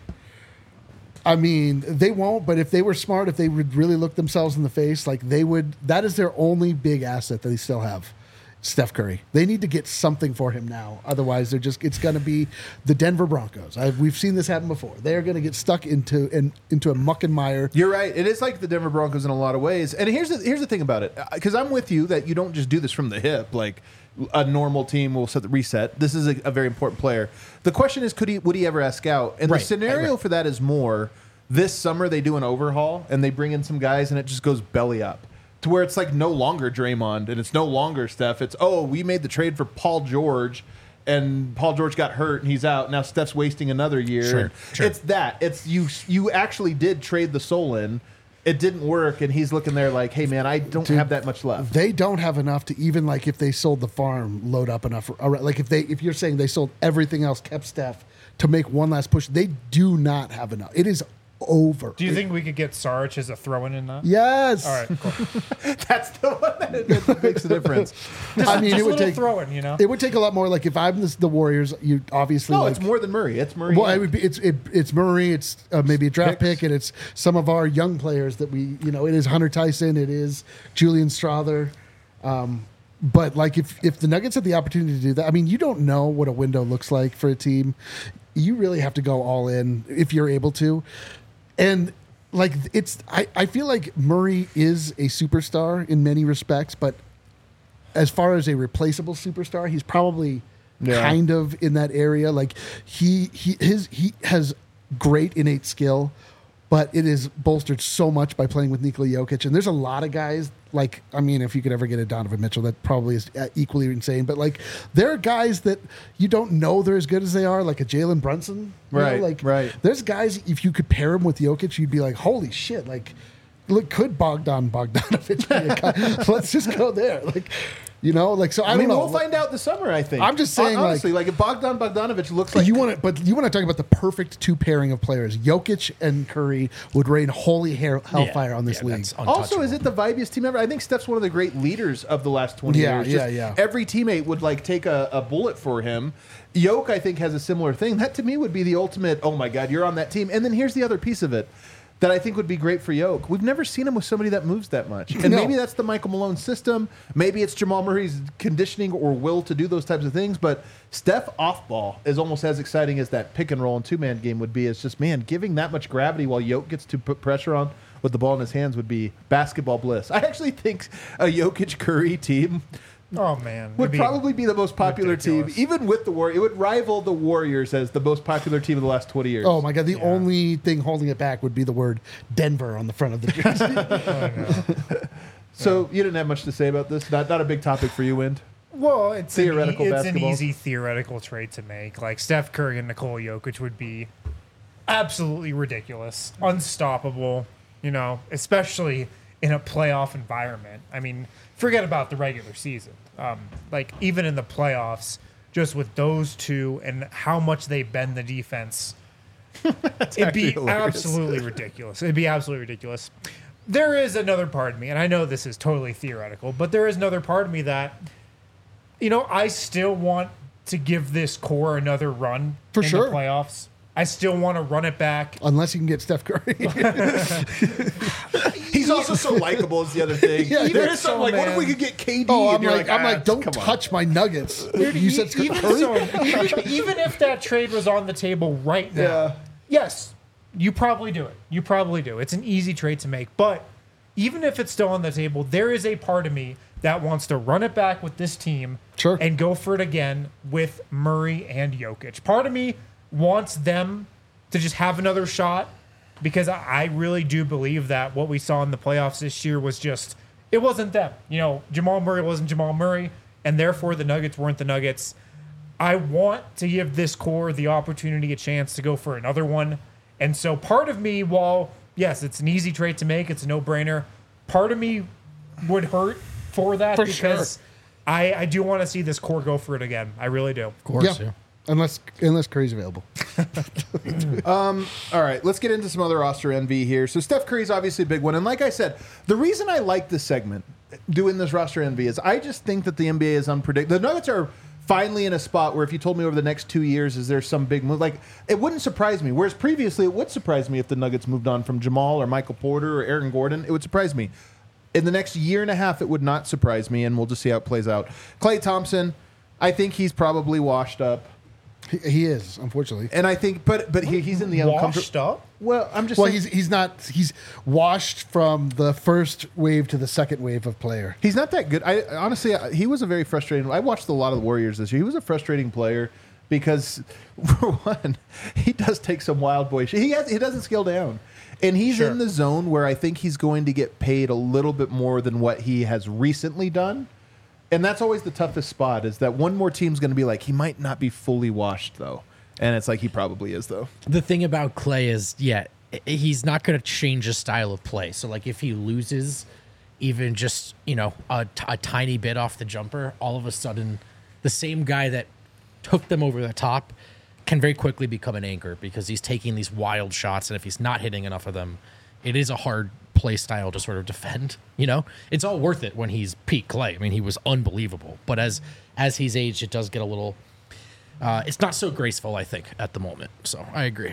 I mean, they won't. But if they were smart, if they would really look themselves in the face, like they would. That is their only big asset that they still have. Steph Curry. They need to get something for him now. Otherwise, it's going to be the Denver Broncos. We've seen this happen before. They're going to get stuck into a muck and mire. You're right. It is like the Denver Broncos in a lot of ways. And here's the thing about it, because I'm with you that you don't just do this from the hip. Like a normal team will set the reset. This is a very important player. The question is, would he ever ask out? And Right, the scenario right. for that is more this summer they do an overhaul and they bring in some guys and it just goes belly up. To where it's like no longer Draymond and it's no longer Steph. It's, we made the trade for Paul George and Paul George got hurt and he's out. Now Steph's wasting another year. Sure, And sure. It's that. It's you actually did trade the soul in. It didn't work and he's looking there like, hey man, I don't have that much left. They don't have enough to even like if they sold the farm, load up enough. Like if you're saying they sold everything else, kept Steph to make one last push, they do not have enough. It is over. Do you think we could get Sarich as a throw-in in that? Yes. All right, cool. That's the one that makes the difference. I mean, Just it a would little take throw-in, you know? it would take a lot more. Like if I'm the Warriors, you obviously No, like, it's more than Murray. It's Murray. Well, it would be it's Murray, it's maybe a draft Picks. pick, and it's some of our young players that it is Hunter Tyson, it is Julian Strother. But like if the Nuggets had the opportunity to do that, I mean, you don't know what a window looks like for a team. You really have to go all in if you're able to. And like I feel like Murray is a superstar in many respects, but as far as a replaceable superstar, he's probably kind of in that area. Like he has great innate skill, but it is bolstered so much by playing with Nikola Jokic. And there's a lot of guys, like, I mean, if you could ever get a Donovan Mitchell, that probably is equally insane. But, like, there are guys that you don't know they're as good as they are, like a Jalen Brunson. You know, Right, like, right. There's guys, if you could pair him with Jokic, you'd be like, holy shit, like, look, could Bogdanovich be a guy? Let's just go there. Like, you know, like, so I don't know. We'll find out this summer, I think. I'm just saying, honestly, like if Bogdanovich looks But like you want to talk about the perfect two pairing of players. Jokic and Curry would rain holy hellfire on this league. that's Also, is untouchable. it the vibiest team ever? I think Steph's one of the great leaders of the last 20 Yeah, years. yeah. Every teammate would like take a bullet for him. Yoke, I think, has a similar thing. That to me would be the ultimate, oh my God, you're on that team. And then here's the other piece of it that I think would be great for Yoke. We've never seen him with somebody that moves that much. And No. maybe that's the Michael Malone system. Maybe it's Jamal Murray's conditioning or will to do those types of things. But Steph off ball is almost as exciting as that pick and roll and two-man game would be. It's just, man, giving that much gravity while Yoke gets to put pressure on with the ball in his hands would be basketball bliss. I actually think a Jokic-Curry team Oh man, would It'd be probably be the most popular ridiculous. team, even with the Warriors. It would rival the Warriors as the most popular team of the last 20 years. Oh my God! The only thing holding it back would be the word Denver on the front of the jersey. So you didn't have much to say about this? Not a big topic for you, Wind? Well, it's Theoretical it's basketball. an easy theoretical trade to make. Like Steph Curry and Nikola Jokic would be absolutely ridiculous, unstoppable. You know, especially in a playoff environment. I mean, forget about the regular season. Like even in the playoffs, just with those two and how much they bend the defense, it'd be actually hilarious. absolutely ridiculous. It'd be absolutely ridiculous. There is another part of me, and I know this is totally theoretical, but there is another part of me that, you know, I still want to give this core another run For in sure. the playoffs. I still want to run it back. Unless you can get Steph Curry. He's also so likable is the other thing. Yeah, there yeah. is something like, what if we could get KD? Oh, And you're don't come on. touch my Nuggets. You said even, Curry? so, even if that trade was on the table right now, Yeah. yes, you probably do it. You probably do. It's an easy trade to make. But even if it's still on the table, there is a part of me that wants to run it back with this team Sure. and go for it again with Murray and Jokic. Part of me wants them to just have another shot because I really do believe that what we saw in the playoffs this year was just, it wasn't them. You know, Jamal Murray wasn't Jamal Murray, and therefore the Nuggets weren't the Nuggets. I want to give this core the opportunity, a chance to go for another one. And so part of me, while, yes, it's an easy trade to make, it's a no-brainer, part of me would hurt for that For because sure. I do want to see this core go for it again. I really do. Of course, Yeah. yeah. Unless Curry's available. All right, let's get into some other roster envy here. So Steph Curry's obviously a big one. And like I said, the reason I like this segment, doing this roster envy, is I just think that the NBA is unpredictable. The Nuggets are finally in a spot where if you told me over the next 2 years, is there some big move? Like, it wouldn't surprise me. Whereas previously, it would surprise me if the Nuggets moved on from Jamal or Michael Porter or Aaron Gordon. It would surprise me. In the next year and a half, it would not surprise me, and we'll just see how it plays out. Klay Thompson, I think he's probably washed up. He is, unfortunately. And I think, but he's in the Washed uncomfortable. up? Well, I'm just Well, saying, he's not. He's washed from the first wave to the second wave of player. he's not that good. I honestly, he was a very frustrating. I watched a lot of the Warriors this year. He was a frustrating player because, for one, he does take some wild boy shit. He doesn't scale down, and he's Sure. in the zone where I think he's going to get paid a little bit more than what he has recently done. And that's always the toughest spot, is that one more team's going to be like, he might not be fully washed, though. And it's like, he probably is, though. The thing about Clay is, he's not going to change his style of play. So, like, if he loses even just, a tiny bit off the jumper, all of a sudden, the same guy that took them over the top can very quickly become an anchor because he's taking these wild shots. And if he's not hitting enough of them, it is a hard play style to sort of defend. It's all worth it when he's peak Clay. I mean, he was unbelievable. But as he's aged, it does get a little. It's not so graceful, I think, at the moment. So I agree.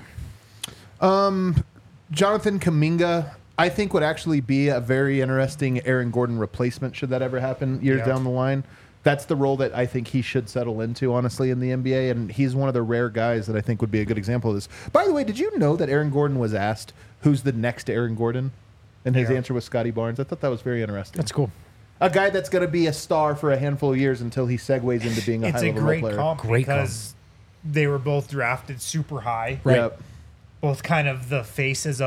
Jonathan Kuminga, I think, would actually be a very interesting Aaron Gordon replacement should that ever happen years Yeah. down the line. That's the role that I think he should settle into, honestly, in the NBA. And he's one of the rare guys that I think would be a good example of this. By the way, did you know that Aaron Gordon was asked who's the next Aaron Gordon? And his Yeah. answer was Scotty Barnes. I thought that was very interesting. That's cool. A guy that's going to be a star for a handful of years until he segues into being a It's a high-level great player. comp Great because they were both drafted super high. Right. Yep. Both kind of the faces of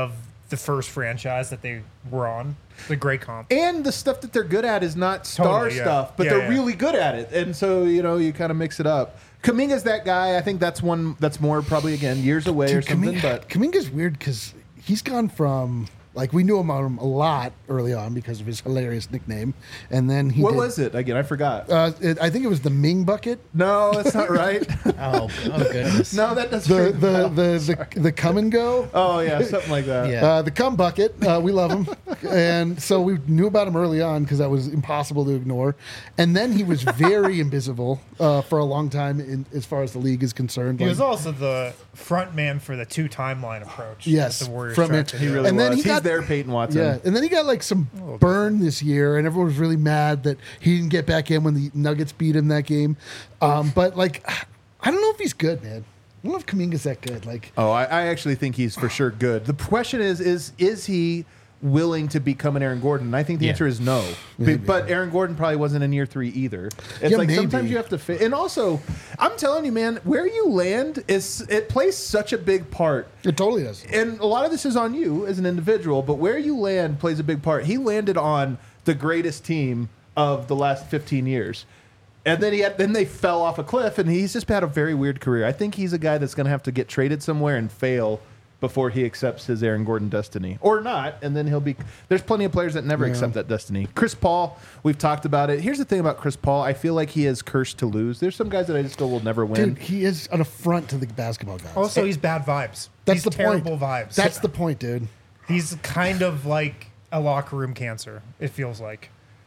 the first franchise that they were on. The great comp. And the stuff that they're good at is not star Totally, yeah. stuff, but Yeah, they're yeah. really good at it. And so, you kind of mix it up. Kaminga's that guy. I think that's one that's more probably, again, years away or something. But Kaminga's weird because he's gone from, like, we knew him a lot early on because of his hilarious nickname. And then he what did, was it? Again, I forgot. I think it was the Ming Bucket. No, that's not right. Oh goodness. No, that doesn't The come and go. Oh, yeah, something like that. Yeah. The cum bucket, we love him, and so we knew about him early on because that was impossible to ignore. And then he was very invisible for a long time, as far as the league is concerned. He Like, was also the front man for the 2 timeline approach. Yes, that the Warriors from tried it. to He do. really And then was. he He's got- there, Peyton Watson. yeah, and then he got like some burn this year, and everyone was really mad that he didn't get back in when the Nuggets beat him that game. But like, I don't know if he's good, man. I don't know if Kaminga's that good. Like, Oh, I actually think he's for sure good. The question is he willing to become an Aaron Gordon? And I think the Yeah. answer is no. But Aaron Gordon probably wasn't in year 3 either. It's Yeah, like maybe. sometimes you have to fit. And also, I'm telling you, man, where you land it plays such a big part. it totally does. And a lot of this is on you as an individual, but where you land plays a big part. He landed on the greatest team of the last 15 years. And then they fell off a cliff, and he's just had a very weird career. I think he's a guy that's going to have to get traded somewhere and fail before he accepts his Aaron Gordon destiny, or not, and then he'll be. There's plenty of players that never accept that destiny. Chris Paul, we've talked about it. Here's the thing about Chris Paul: I feel like he is cursed to lose. There's some guys that I just go will never win. Dude, he is an affront to the basketball guys. Also, he's bad vibes. That's He's the terrible point. vibes. That's the point, dude. He's kind of like a locker room cancer. It feels like,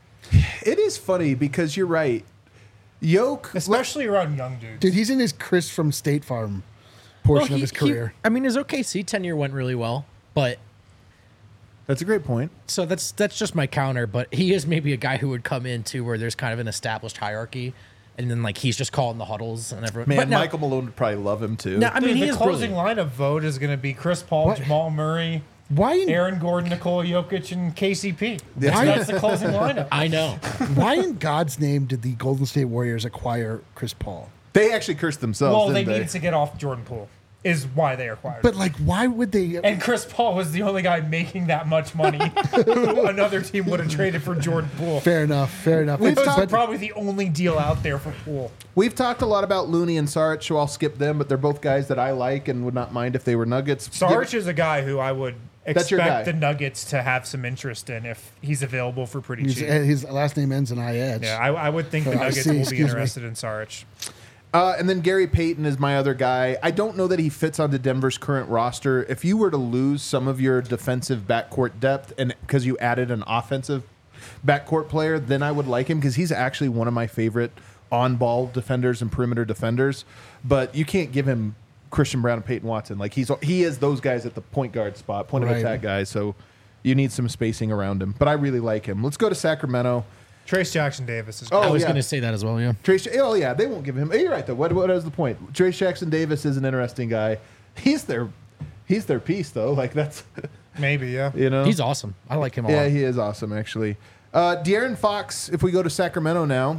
It is funny because you're right. Yoke, especially around young dudes. Dude, he's in his Chris from State Farm portion of his career. I mean, his OKC tenure went really well, but that's a great point. so that's just my counter. But he is maybe a guy who would come into where there's kind of an established hierarchy, and then like he's just calling the huddles and everyone. Man, but no, Michael Malone would probably love him too. no, I mean Dude, he the is closing brilliant. lineup vote is going to be Chris Paul, What? Jamal Murray, Why in, Aaron Gordon, Nikola Jokic, and KCP. Why- That's the closing lineup. I know. why in God's name did the Golden State Warriors acquire Chris Paul? They actually cursed themselves. Well, they didn't needed to get off Jordan Poole, is why they acquired. But him. like, why would they? And Chris Paul was the only guy making that much money who another team would have traded for Jordan Poole. Fair enough. Fair enough. We've It's- talked but- Probably the only deal out there for Poole. We've talked a lot about Looney and Saric, so I'll skip them, but they're both guys that I like and would not mind if they were Nuggets. Saric is a guy who I would That's your guy. expect the Nuggets to have some interest in if he's available for pretty cheap. his last name ends in IH. Yeah, I would think the I Nuggets see, will be excuse me. interested in Saric. And then Gary Payton is my other guy. I don't know that he fits onto Denver's current roster. If you were to lose some of your defensive backcourt depth and because you added an offensive backcourt player, then I would like him because he's actually one of my favorite on-ball defenders and perimeter defenders. But you can't give him Christian Brown and Peyton Watson. Like he is those guys at the point guard spot, point of Right. attack guys. So you need some spacing around him. But I really like him. Let's go to Sacramento. Trace Jackson Davis is Oh, I was yeah. going to say that as well. Yeah. Trace, oh yeah, they won't give him. You're right though. What is the point? Trace Jackson Davis is an interesting guy. He's their piece though. Like that's maybe, yeah. He's awesome. I like him a yeah, lot. he is awesome actually. De'Aaron Fox. If we go to Sacramento now,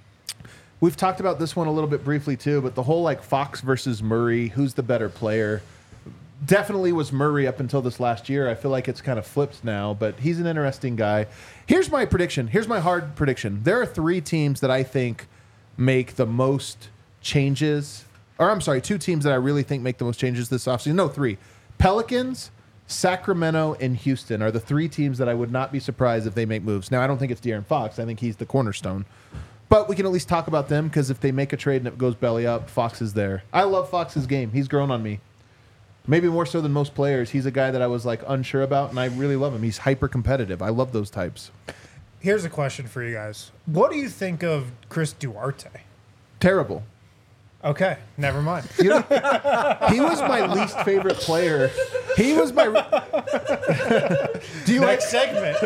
we've talked about this one a little bit briefly too. But the whole like Fox versus Murray, who's the better player? Definitely was Murray up until this last year. I feel like it's kind of flipped now, but he's an interesting guy. Here's my prediction. Here's my hard prediction. There are 3 teams that I think make the most changes. Or I'm sorry, 2 teams that I really think make the most changes this offseason. No, 3. Pelicans, Sacramento, and Houston are the 3 teams that I would not be surprised if they make moves. Now, I don't think it's De'Aaron Fox. I think he's the cornerstone. But we can at least talk about them because if they make a trade and it goes belly up, Fox is there. I love Fox's game. He's grown on me. Maybe more so than most players. He's a guy that I was like unsure about, and I really love him. He's hyper competitive. I love those types. Here's a question for you guys. What do you think of Chris Duarte? Terrible. Okay, never mind. You know, he was my least favorite player. He was my. Do you like? Next segment.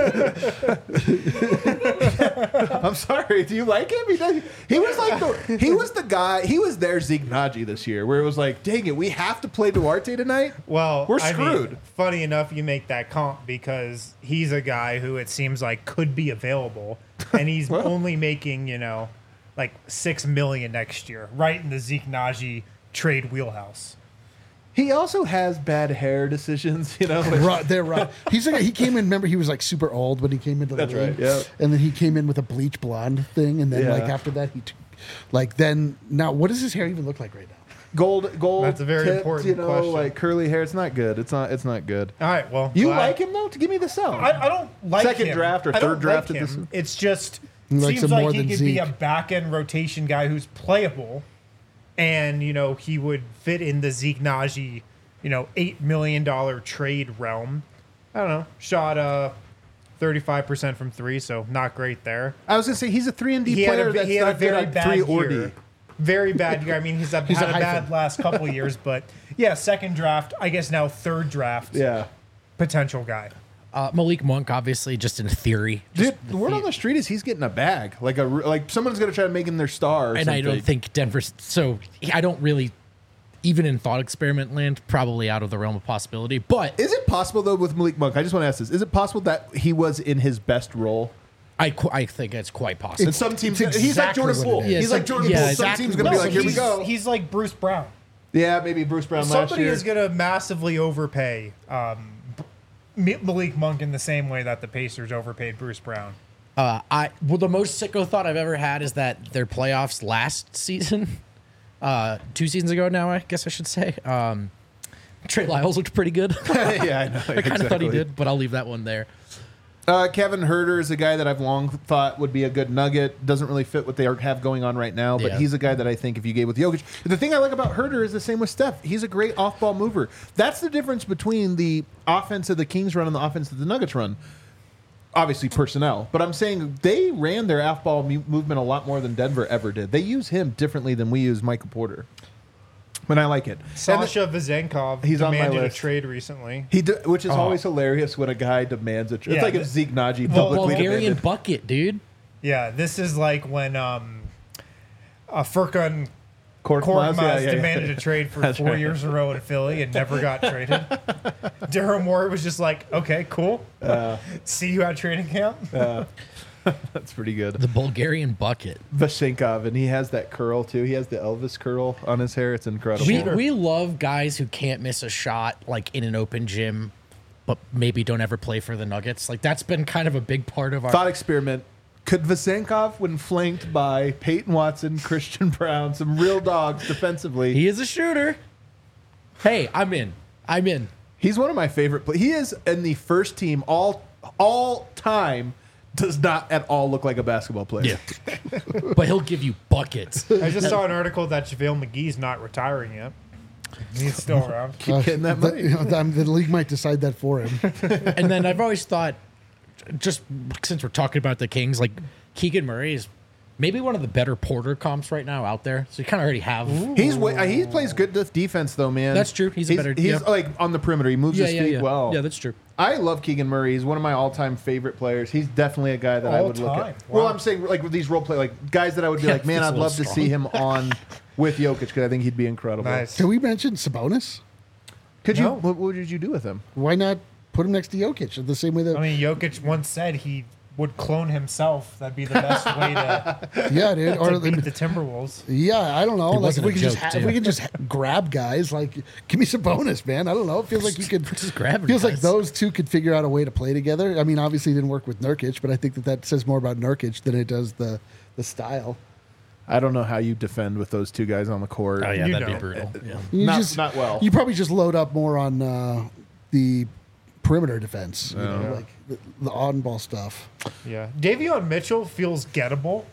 I'm sorry. Do you like him? He was like the. He was the guy. He was their Zeke Naji this year, where it was like, dang it, we have to play Duarte tonight. Well, We're I mean, screwed. funny enough, you make that comp because he's a guy who it seems like could be available, and he's only making like $6 million next year, right in the Zeke Naji trade wheelhouse. He also has bad hair decisions, you know. Like, Right, they're right. He came in. Remember, he was like super old when he came into the That's league. right, yeah. And then he came in with a bleach blonde thing, and then Yeah. like after that, then now what does his hair even look like right now? gold. That's a very tipped, important you know, question. like curly hair. It's not good. It's not good. All right, well, You glad- like him though? To give me the sell. I don't like Second him. draft or I don't third draft like at this- him. It's just He likes seems him like more he than could be a Zeke. back end rotation guy who's playable, and he would fit in the Zeke Najee, $8 million trade realm. I don't know. Shot 35% from three, so not great there. I was gonna say he's a 3-and-D He had player a, that's he had a not good very at bad 3 or D. year. Very bad year. I mean, he's had a hyphen. bad last couple of years, but yeah, second draft. I guess now third draft. Yeah. Potential guy. Malik Monk, obviously, just in theory. Dude, the word on the street is he's getting a bag. Like someone's gonna try to make him their star. Or And something. I don't think Denver's. So I don't really, even in thought experiment land, probably out of the realm of possibility. But Is it possible though with Malik Monk? I just want to ask this: is it possible that he was in his best role? I think it's quite possible. And some teams, it's he's like exactly Jordan what Poole. it is. Yeah, He's like some- Jordan yeah, Poole. Some exactly. teams gonna be No, like, here we he's- go. He's like Bruce Brown. Yeah, maybe Bruce Brown last Somebody year. is going to massively overpay Malik Monk in the same way that the Pacers overpaid Bruce Brown. The most sicko thought I've ever had is that their playoffs last season, 2 seasons ago now, I guess I should say. Trey Lyles looked pretty good. Yeah, I know. I kind of thought he did, but I'll leave that one there. Kevin Herter is a guy that I've long thought would be a good nugget. Doesn't really fit what they have going on right now, but Yeah. he's a guy that I think if you gave with Jokic. The thing I like about Herter is the same with Steph. He's a great off-ball mover. That's the difference between the offense of the Kings run and the offense of the Nuggets run. Obviously personnel, but I'm saying they ran their off-ball movement a lot more than Denver ever did. They use him differently than we use Michael Porter. But I like it. And Sasha Vezenkov He's on my demanded a list. trade recently. which is always hilarious when a guy demands a trade. It's Yeah, like if Zeke Najee Well, publicly Bulgarian demanded. bucket, dude. Yeah, this is like when Furkan Korkmaz, Korkmaz demanded a trade for 4 years in a row in Philly and never got traded. Daryl Morey was just like, okay, cool. See you at training camp. That's pretty good. The Bulgarian bucket. Vashenkov, and he has that curl too. He has the Elvis curl on his hair. It's incredible. We love guys who can't miss a shot like in an open gym, but maybe don't ever play for the Nuggets. Like that's been kind of a big part of our Thought experiment. Could Vasenkov, when flanked by Peyton Watson, Christian Brown, some real dogs defensively, He is a shooter. Hey, I'm in. he's one of my favorite. He is in the first team all time. Does not at all look like a basketball player. Yeah. But he'll give you buckets. I just saw an article that JaVale McGee's not retiring yet. He's still around. Keep getting that money. The league might decide that for him. And then I've always thought, just since we're talking about the Kings, like Keegan Murray is maybe one of the better Porter comps right now out there. So you kind of already have. He plays good defense though, man. That's true. He's better- He's yeah. like on the perimeter. He moves his feet well. Yeah, that's true. I love Keegan Murray. He's one of my all-time favorite players. He's definitely a guy that I would look All-time? at. Wow. Well, I'm saying like with these role play, like guys that I would be Yeah, like, man, that's a I'd little love to strong. see him on with Jokic because I think he'd be incredible. Nice. Can we mention Sabonis? Could you? No. What did you do with him? Why not put him next to Jokic the same way that? I mean, Jokic once said he would clone himself. That'd be the best way to, yeah, dude. Or beat the Timberwolves. yeah, I don't know. It Like wasn't if a we could just joke, if too. we could just grab guys, like give me Sabonis, man. I don't know. It feels like you could. Just grabbing Feels like guys. those two could figure out a way to play together. I mean, obviously it didn't work with Nurkic, but I think that says more about Nurkic than it does the style. I don't know how you defend with those two guys on the court. Oh yeah, You that'd be know. brutal. Yeah. You Not well. You probably just load up more on the perimeter defense, you know, like the on-ball stuff. Yeah. Davion Mitchell feels gettable.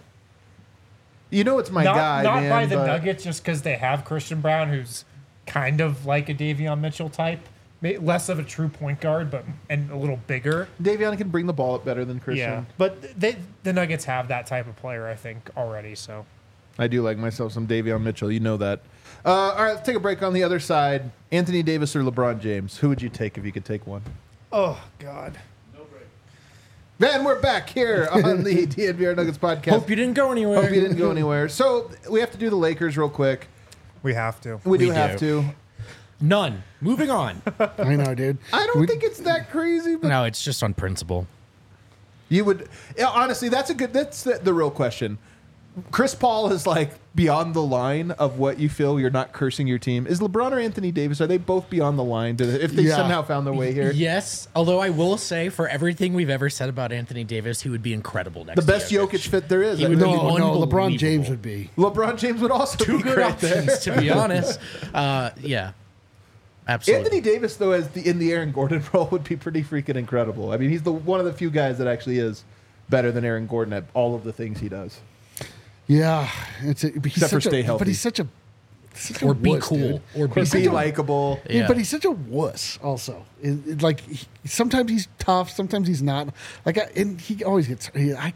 You know it's my Not guy, man. by the but Nuggets just because they have Christian Brown, who's kind of like a Davion Mitchell type. Less of a true point guard, but and a little bigger. Davion can bring the ball up better than Christian. Yeah. But the Nuggets have that type of player, I think, already. So I do like myself some Davion Mitchell. You know that. All right, let's take a break on the other side. Anthony Davis or LeBron James? Who would you take if you could take one? oh God. Then we're back here on the DNVR Nuggets podcast. Hope you didn't go anywhere. Hope you didn't go anywhere. So we have to do the Lakers real quick. We have to. We do We have do. to. None. Moving on. I know, dude. I don't think it's that crazy, but No, it's just on principle. you would. Yeah, honestly, that's the real question. Chris Paul is like beyond the line of what you feel you're not cursing your team. Is LeBron or Anthony Davis, are they both beyond the line if they Yeah. somehow found their way here? Yes, although I will say, for everything we've ever said about Anthony Davis, he would be incredible next The to best Jokic fit there is. He would No, be no, LeBron unbelievable. James would be. LeBron James would also Two be good great there. options, to be honest. Yeah, absolutely. Anthony Davis, though, in the Aaron Gordon role, would be pretty freaking incredible. I mean, he's one of the few guys that actually is better than Aaron Gordon at all of the things he does. Yeah, but he's Except for such stay a, healthy. But he's such a or be wuss, cool, dude. or be Be likable. Yeah. But he's such a wuss. Also, like sometimes he's tough, sometimes he's not. And he always gets. I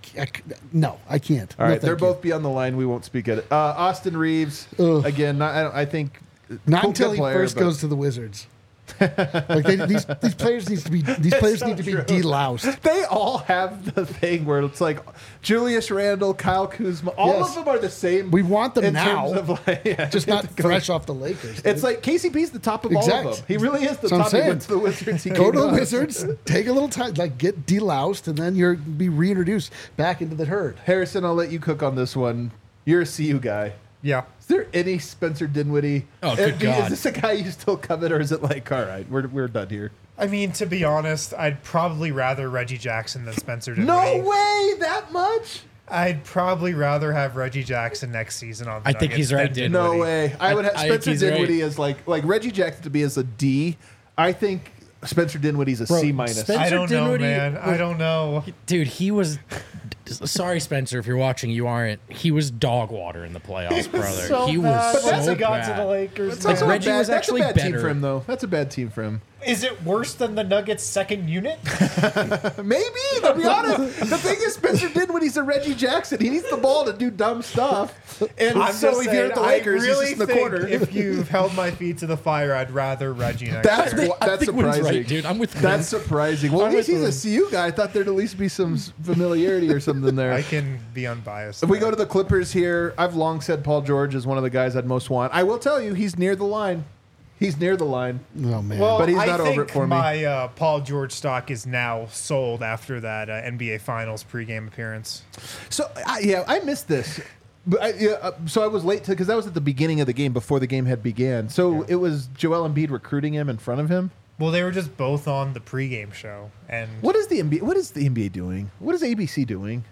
can't. All No, right, they're thank you. both beyond the line. We won't speak at it. Austin Reeves, Ugh. again, I think Not cool until good he player, first but- goes to the Wizards. Like these players need to be so be true. deloused. They all have the thing where it's like Julius Randle, Kyle Kuzma, all Yes. of them are the same. We want them in now, terms of like, yeah, just not fresh off the Lakers. dude. It's like KCP's the top of all Exact. of them. He really is the That's what I'm top. He saying. went to the Wizards. He Go came to the us. Wizards, take a little time, like get deloused, and then you're be reintroduced back into the herd. Harrison, I'll let you cook on this one. You're a CU guy. Yeah. Is there any Spencer Dinwiddie? Oh, good God. Is this a guy you still covet, or is it like, all right, we're done here? I mean, to be honest, I'd probably rather Reggie Jackson than Spencer No Dinwiddie. way, that much? I'd probably rather have Reggie Jackson next season on the I think Nuggets he's right, than dude. No Dinwiddie. way. I would have I Spencer think he's Dinwiddie right. as like Reggie Jackson to be as a D. I think Spencer Dinwiddie's a Bro, C minus. Spencer I don't know, Dinwiddie man. I don't know. Dude, he was. Sorry, Spencer, if you're watching, you aren't. He was dog water in the playoffs, brother. So he bad. was But that's so what got to the bad. Lakers. That's Like, also man. Reggie a bad, was that's actually a bad team better. for him, though. That's a bad team for him. Is it worse than the Nuggets' second unit? Maybe, to be honest. The thing is, Spencer Dinwiddie's a Reggie Jackson. He needs the ball to do dumb stuff. And I'm so just if saying, you're at the Lakers, I really he's just in the think corner. if you've held my feet to the fire, I'd rather Reggie next That's year. I that's think Wynn's surprising. right, dude. I'm with That's surprising. Well, at I'm least with he's a CU guy. I thought there'd at least be some familiarity or something there. I can be unbiased. If we go to the Clippers here, I've long said Paul George is one of the guys I'd most want. I will tell you, he's near the line. He's near the line. Oh man. well, but he's I not think over it for me. my Paul George stock is now sold after that NBA Finals pregame appearance. So, I missed this. But so I was late because that was at the beginning of the game before the game had began. So it was Joel Embiid recruiting him in front of him. Well, they were just both on the pregame show, and What is the NBA doing? What is ABC doing?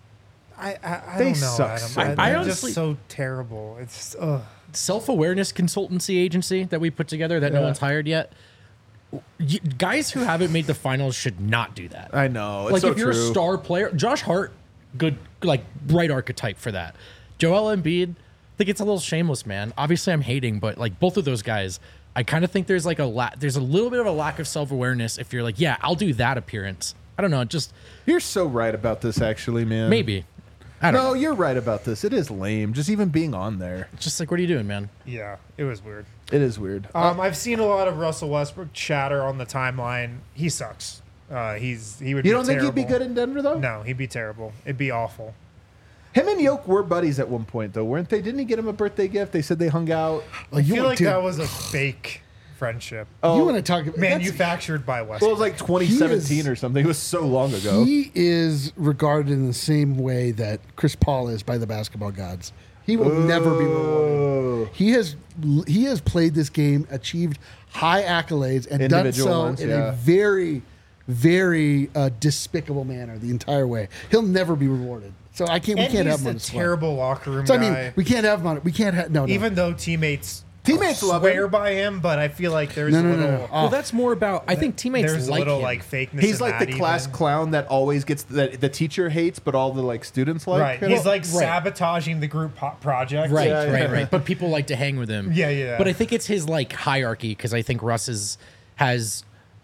I They don't know. suck Adam. so They're bad. I just honestly- so terrible. It's self-awareness consultancy agency that we put together that no one's hired yet. Guys who haven't made the finals should not do that. I know. It's Like so if you're true. a star player, Josh Hart, good, like bright archetype for that. Joel Embiid, I think it's a little shameless, man. Obviously, I'm hating, but like both of those guys, I kind of think there's like there's a little bit of a lack of self-awareness. If you're like, yeah, I'll do that appearance. I don't know, just You're so right about this, actually, man. maybe. I don't No, know. you're right about this. It is lame. Just even being on there. Just like, what are you doing, man? yeah, it was weird. It is weird. I've seen a lot of Russell Westbrook chatter on the timeline. He sucks. He would. You be don't think he'd be terrible. good in Denver, though? No, he'd be terrible. It'd be awful. Him and Yoke were buddies at one point, though, weren't they? Didn't he get him a birthday gift? They said they hung out. I feel like dude, that was a fake friendship, you want to talk about manufactured by Westbrook. Well, it was like 2017 He is- or something. It was so long ago. He is regarded in the same way that Chris Paul is by the basketball gods. He will never be rewarded. He has played this game, achieved high accolades, and done Individual so ones, in yeah. a very, very despicable manner the entire way. He'll never be rewarded. So we and can't he's have him on the the squad. terrible locker room So I guy. mean, we can't have him on it. We can't have no. even though teammates Love swear him. by him, but I feel like there's No, a no, little. no, no. Well, that's more about. I think teammates There's a like little him. like fakeness. He's in like the that class even. clown that always gets the teacher hates, but all the like students like. Right. you know? He's like Right. sabotaging the group project. Right, Yeah, yeah. right. But people like to hang with him. Yeah, yeah. But I think it's his like hierarchy because I think Russ has.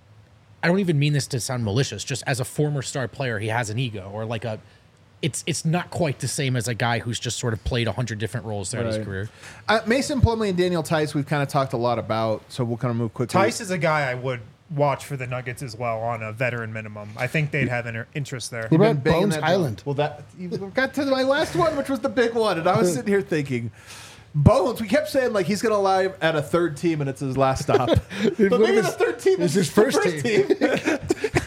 I don't even mean this to sound malicious. Just as a former star player, he has an ego or like a. It's not quite the same as a guy who's just sort of played 100 different roles throughout his Right. career. Mason Plumlee and Daniel Tice, we've kind of talked a lot about, so we'll kind of move quickly. Tice is a guy I would watch for the Nuggets as well on a veteran minimum. I think they'd have interest there. What You've been about banging Bones that Highland? drum. Well, you got to my last one, which was the big one, and I was sitting here thinking, Bones. We kept saying like he's going to lie at a third team, and it's his last stop. But maybe the third team It's is his first team.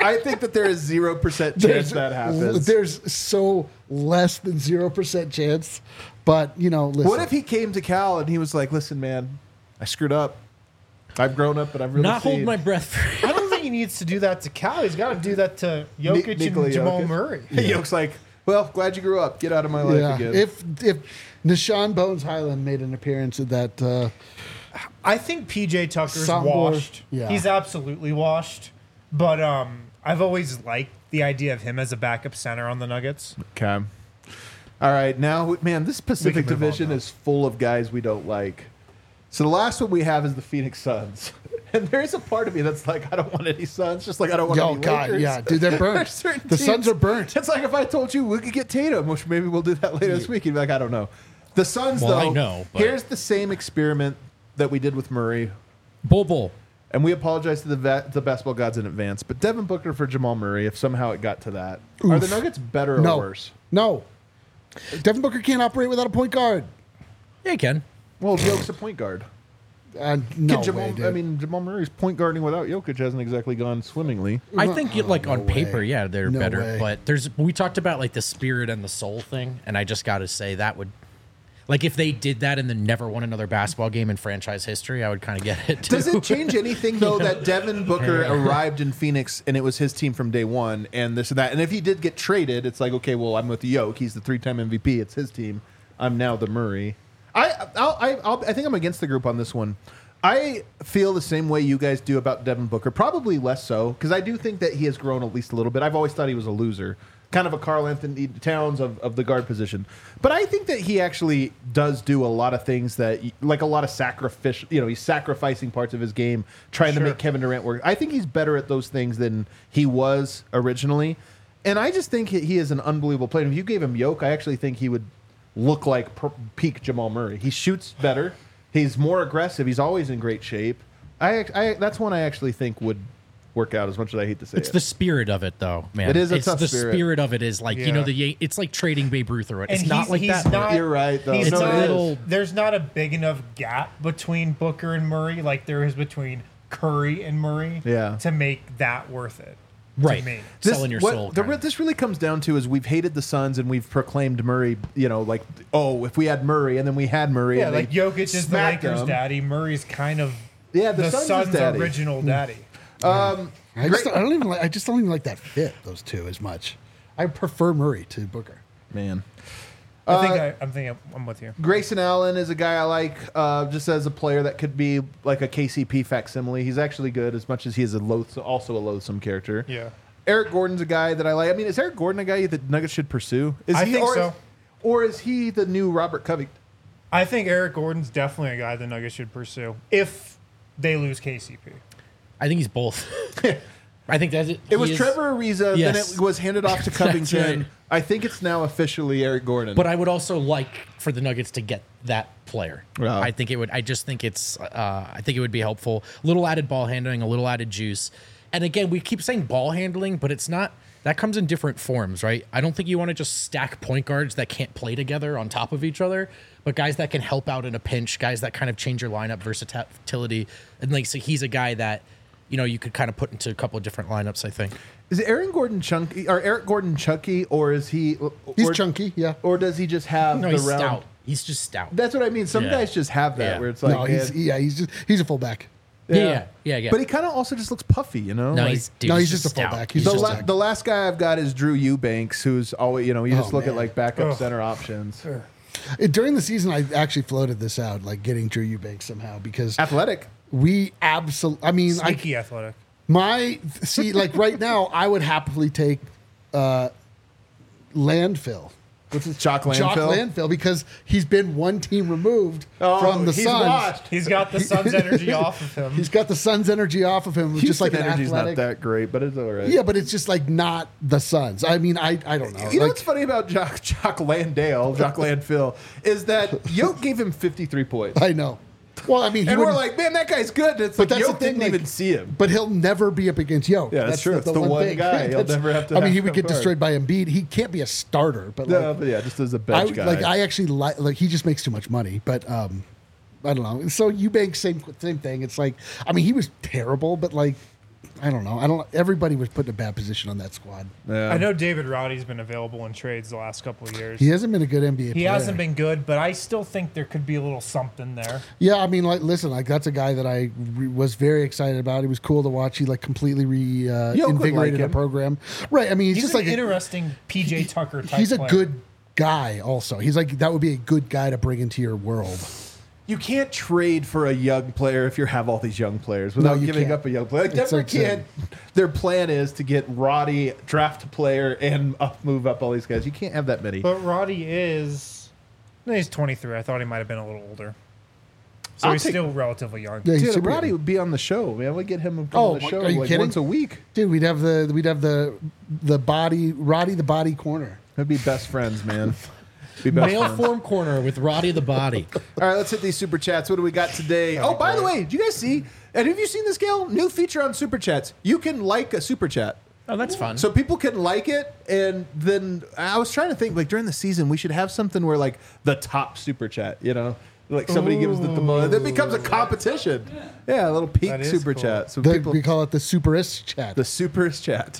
I think that there is 0% chance that happens. There's so less than 0% chance. But, listen. What if he came to Cal and he was like, listen, man, I screwed up. I've grown up, but I've really Not hold seen. my breath. I don't think he needs to do that to Cal. He's got to do that to Jokic Nikola and Jamal Jokic. Murray. Jokic like, well, glad you grew up. Get out of my life Yeah. again. If Nishan Bones Highland made an appearance at that, I think PJ Tucker's Soundboard, washed. yeah. He's absolutely washed. But I've always liked the idea of him as a backup center on the Nuggets. Okay. All right. Now, man, this Pacific move on, Division though. is full of guys we don't like. So the last one we have is the Phoenix Suns. And there is a part of me that's like, I don't want any Suns. Just like I don't want any Lakers. yeah, dude, they're burnt. There's certain The Suns teams- are burnt. It's like if I told you we could get Tatum, which maybe we'll do that later this week. You'd be like, I don't know. The Suns, Well, though, I know, but- here's the same experiment that we did with Murray. Bull. And we apologize to the basketball gods in advance. But Devin Booker for Jamal Murray, if somehow it got to that. Are the Nuggets better or no. worse? No. Devin Booker can't operate without a point guard. Yeah, you can. Well, Jokic's a point guard. No Jamal, way, dude. I mean, Jamal Murray's point guarding without Jokic hasn't exactly gone swimmingly. I think like on no paper, way. yeah, they're No better. way. But we talked about like the spirit and the soul thing, and I just got to say that would, like, if they did that and then never won another basketball game in franchise history, I would kind of get it. Too. Does it change anything though that Devin Booker arrived in Phoenix and it was his team from day one and this and that? And if he did get traded, it's like, okay, well, I'm with Jokic. He's the 3-time MVP. It's his team. I'm now the Murray. I think I'm against the group on this one. I feel the same way you guys do about Devin Booker, probably less so, because I do think that he has grown at least a little bit. I've always thought he was a loser, kind of a Karl Anthony Towns of the guard position. But I think that he actually does do a lot of things that, like a lot of sacrificial, he's sacrificing parts of his game, trying to Sure. make Kevin Durant work. I think he's better at those things than he was originally. And I just think he is an unbelievable player. If you gave him Yoke, I actually think he would look like peak Jamal Murray. He shoots better. He's more aggressive. He's always in great shape. That's one I actually think would work out, as much as I hate to say It's it. the spirit of it, though, man. It is a it's tough the spirit. of it is like Yeah. it's like trading Babe Ruth or it. It's And not like he's that. not- You're right, though. He's It's not, a little- There's not a big enough gap between Booker and Murray like there is between Curry and Murray Yeah. to make that worth it. Right. To me. Selling your soul. kinda. This really comes down to is we've hated the Suns and we've proclaimed Murray, like, oh, if we had Murray and then we had Murray. Yeah, and like they Jokic is the smacked Lakers' them. daddy. Murray's kind of Yeah, the the Suns' Suns' daddy. original daddy. I just don't even like that fit, those two, as much. I prefer Murray to Booker. Man. I'm with you. Grayson Allen is a guy I like, just as a player that could be like a KCP facsimile. He's actually good, as much as he is also a loathsome character. Yeah. Eric Gordon's a guy that I like. I mean, is Eric Gordon a guy that Nuggets should pursue? I think so. Or is he the new Robert Covington? I think Eric Gordon's definitely a guy the Nuggets should pursue if they lose KCP. I think he's both. I think that's it. It was Trevor Ariza, Yes. then it was handed off to That's Covington. right. I think it's now officially Eric Gordon. But I would also like for the Nuggets to get that player. Wow. I think it would. I just think it's. I think it would be helpful. A little added ball handling, a little added juice. And again, we keep saying ball handling, but it's not. That comes in different forms, right? I don't think you want to just stack point guards that can't play together on top of each other, but guys that can help out in a pinch, guys that kind of change your lineup versatility. And like, so he's a guy that, you could kind of put into a couple of different lineups, I think. is Aaron Gordon chunky or Eric Gordon chunky, or is he? He's or, chunky, yeah. Or does he just have No, the he's round? stout. He's just stout. That's what I mean. Some Yeah. guys just have that Yeah. where it's like, No, he's a fullback. Yeah. But he kind of also just looks puffy, No, like, he's just a stout. fullback. He's He's the, just just the last guy I've got is Drew Eubanks, who's always, you just look at man. like backup Ugh. center options. During the season, I actually floated this out, like getting Drew Eubanks somehow, because Athletic. we absolutely. I mean, Sneaky athletic. like right now, I would happily take Landfill. What's his Jock Landfill? Landfill, because he's been one team removed from the he's Suns. washed. He's got the Suns' energy off of him. He's got the Suns' energy off of him, just like an energy's athletic. not that great, but it's all right. Yeah, but it's just like not the Suns. I mean, I don't know. You know Like, what's funny about Jock Landfill is that Yoke gave him 53 points. I know. Well, I mean, he And we're wouldn't- like, man, that guy's good. And it's But like, that's Yoke the thing, didn't like- even see him. But he'll never be up against Yoke. Yeah, that's true. It's the one thing. guy. He'll never have to I mean, have he would to get guard. destroyed by Embiid. He can't be a starter, but No, like, but yeah, just as a bench guy. I actually like he just makes too much money. But I don't know. So Eubanks, same thing. It's like, I mean, he was terrible, but like I don't know. Everybody was put in a bad position on that squad. Yeah. I know David Roddy's been available in trades the last couple of years. He hasn't been a good NBA player. He hasn't been good, but I still think there could be a little something there. Yeah, I mean, like, listen, like that's a guy that I was very excited about. He was cool to watch. He like completely invigorated him. the program. Right. I mean, he's He's just an like interesting PJ Tucker type he's a player. good guy. Also, he's like that would be a good guy to bring into your world. You can't trade for a young player if you have all these young players without you giving can't. up a young player. Like It's Denver like can't. Their plan is to get Roddy, draft a player, and move up all these guys. You can't have that many. But Roddy is... No, he's 23. I thought he might have been a little older. So I'll he's take- still relatively young. Yeah, he's Dude, super Roddy young. would be on the show, man. We'd get him on Oh, the show are you like kidding? once a week. Dude, we'd have the body Roddy the body corner. We'd be best friends, man. Be best Male friends. form corner with Roddy the Body. All right, let's hit these super chats. What do we got today? Oh, by the way, did you guys see? And have you seen this, Gail? New feature on super chats. You can like a super chat. Oh, that's fun. So people can like it, and then I was trying to think, like during the season, we should have something where like the top super chat, you know, like somebody gives the most. It becomes a competition. Yeah, a little peak That is super cool. chat. So people, We call it the superist chat. the superest chat.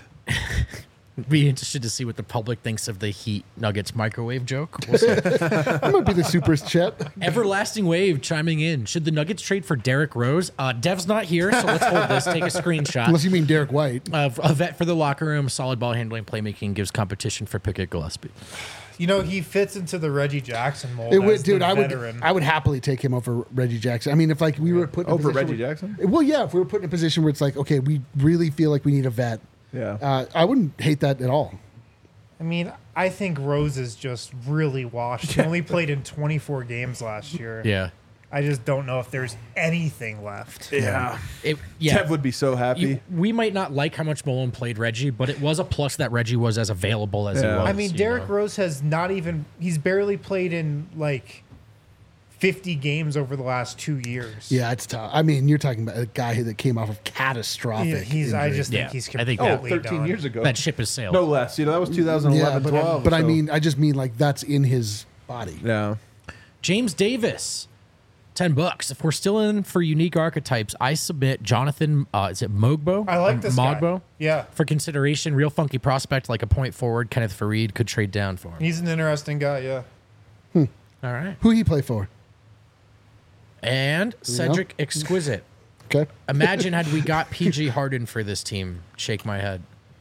Be interested to see what the public thinks of the Heat Nuggets microwave joke. We'll see. That might be the superist chat. Everlasting Wave chiming in. Should the Nuggets trade for Derrick Rose? Dev's not here, so let's hold this. Take a screenshot. Unless you mean Derek White. A vet for the locker room, solid ball handling, playmaking, gives competition for Pickett Gillespie. You know, he fits into the Reggie Jackson mold. It would, as dude. the I veteran. would happily take him over Reggie Jackson. I mean, if like we were put in a Over position Reggie where- Jackson? Well, yeah. If we were put in a position where it's like, okay, we really feel like we need a vet. Yeah. I wouldn't hate that at all. I mean, I think Rose is just really washed. He only played in 24 games last year. Yeah. I just don't know if there's anything left. Yeah. Yeah. Tev would be so happy. We might not like how much Malone played Reggie, but it was a plus that Reggie was as available as he Yeah. was. I mean, you Derrick know? Rose has not even, he's barely played in like 50 games over the last 2 years. Yeah, it's tough. I mean, you're talking about a guy that came off of catastrophic. I injury. just Yeah, think he's I think completely Oh, 13 done. years ago. That ship has sailed. No less. You know, that was 2011, yeah, but, 12. but I so- mean, I just mean like that's in his body. Yeah. James Davis, $10. If we're still in for unique archetypes, I submit Jonathan. Is it Mogbo? I like this guy. Mogbo. Yeah. For consideration, real funky prospect like a point forward. Kenneth Fareed could trade down for him. He's an interesting guy, yeah. All right. Who he play for? And Cedric Exquisite. Okay. Imagine had we got PG Harden for this team. Shake my head.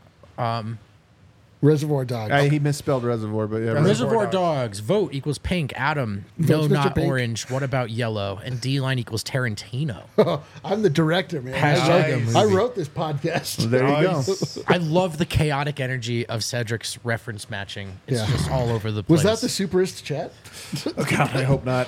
Reservoir Dogs. He misspelled reservoir, but yeah. Reservoir Dogs. Dogs. Vote equals pink. Adam. Votes No, Mr. not Pink. orange. What about yellow? And D line equals Tarantino. I'm the director, man. Hashtag I a movie. wrote this podcast. There you go. Nice. I love the chaotic energy of Cedric's reference matching. It's Yeah. just all over the place. Was that the superist chat? God, I hope not.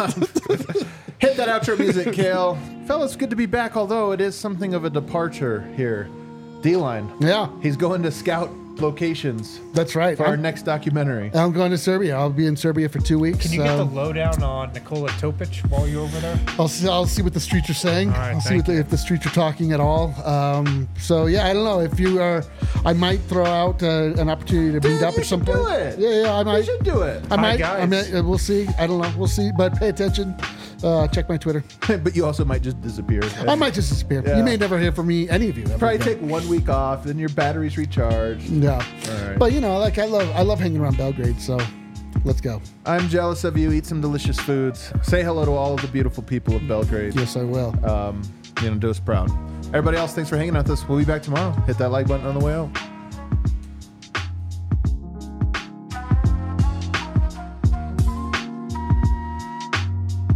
Hit that outro music, Kale. Fellas, good to be back, although it is something of a departure here. D-Line. Yeah, He's going to scout locations that's right. for our next documentary. I'm going to Serbia. I'll be in Serbia for 2 weeks. Can you get the lowdown on Nikola Topic while you're over there? I'll see what the streets are saying. All right, I'll see thank what you. if the streets are talking at all. So yeah, I don't know if you are. I might throw out an opportunity to meet Dude, up you at some should do point. it. Yeah, I You might. should do it. I might. guys. We'll see. I don't know. We'll see. But pay attention. Check my Twitter. But you also might just disappear. I might just disappear. Yeah. You may never hear from me, any of you. Ever Probably again. take 1 week off, then your battery's recharged. Yeah. All right. But you know, like I love hanging around Belgrade. So let's go. I'm jealous of you. Eat some delicious foods. Say hello to all of the beautiful people of Belgrade. Yes, I will. Do us proud. Everybody else, thanks for hanging out with us. We'll be back tomorrow. Hit that like button on the way out.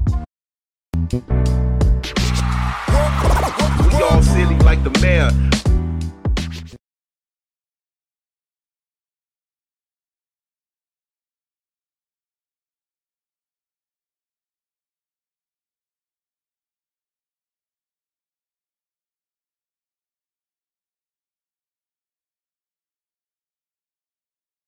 We all silly like the mayor.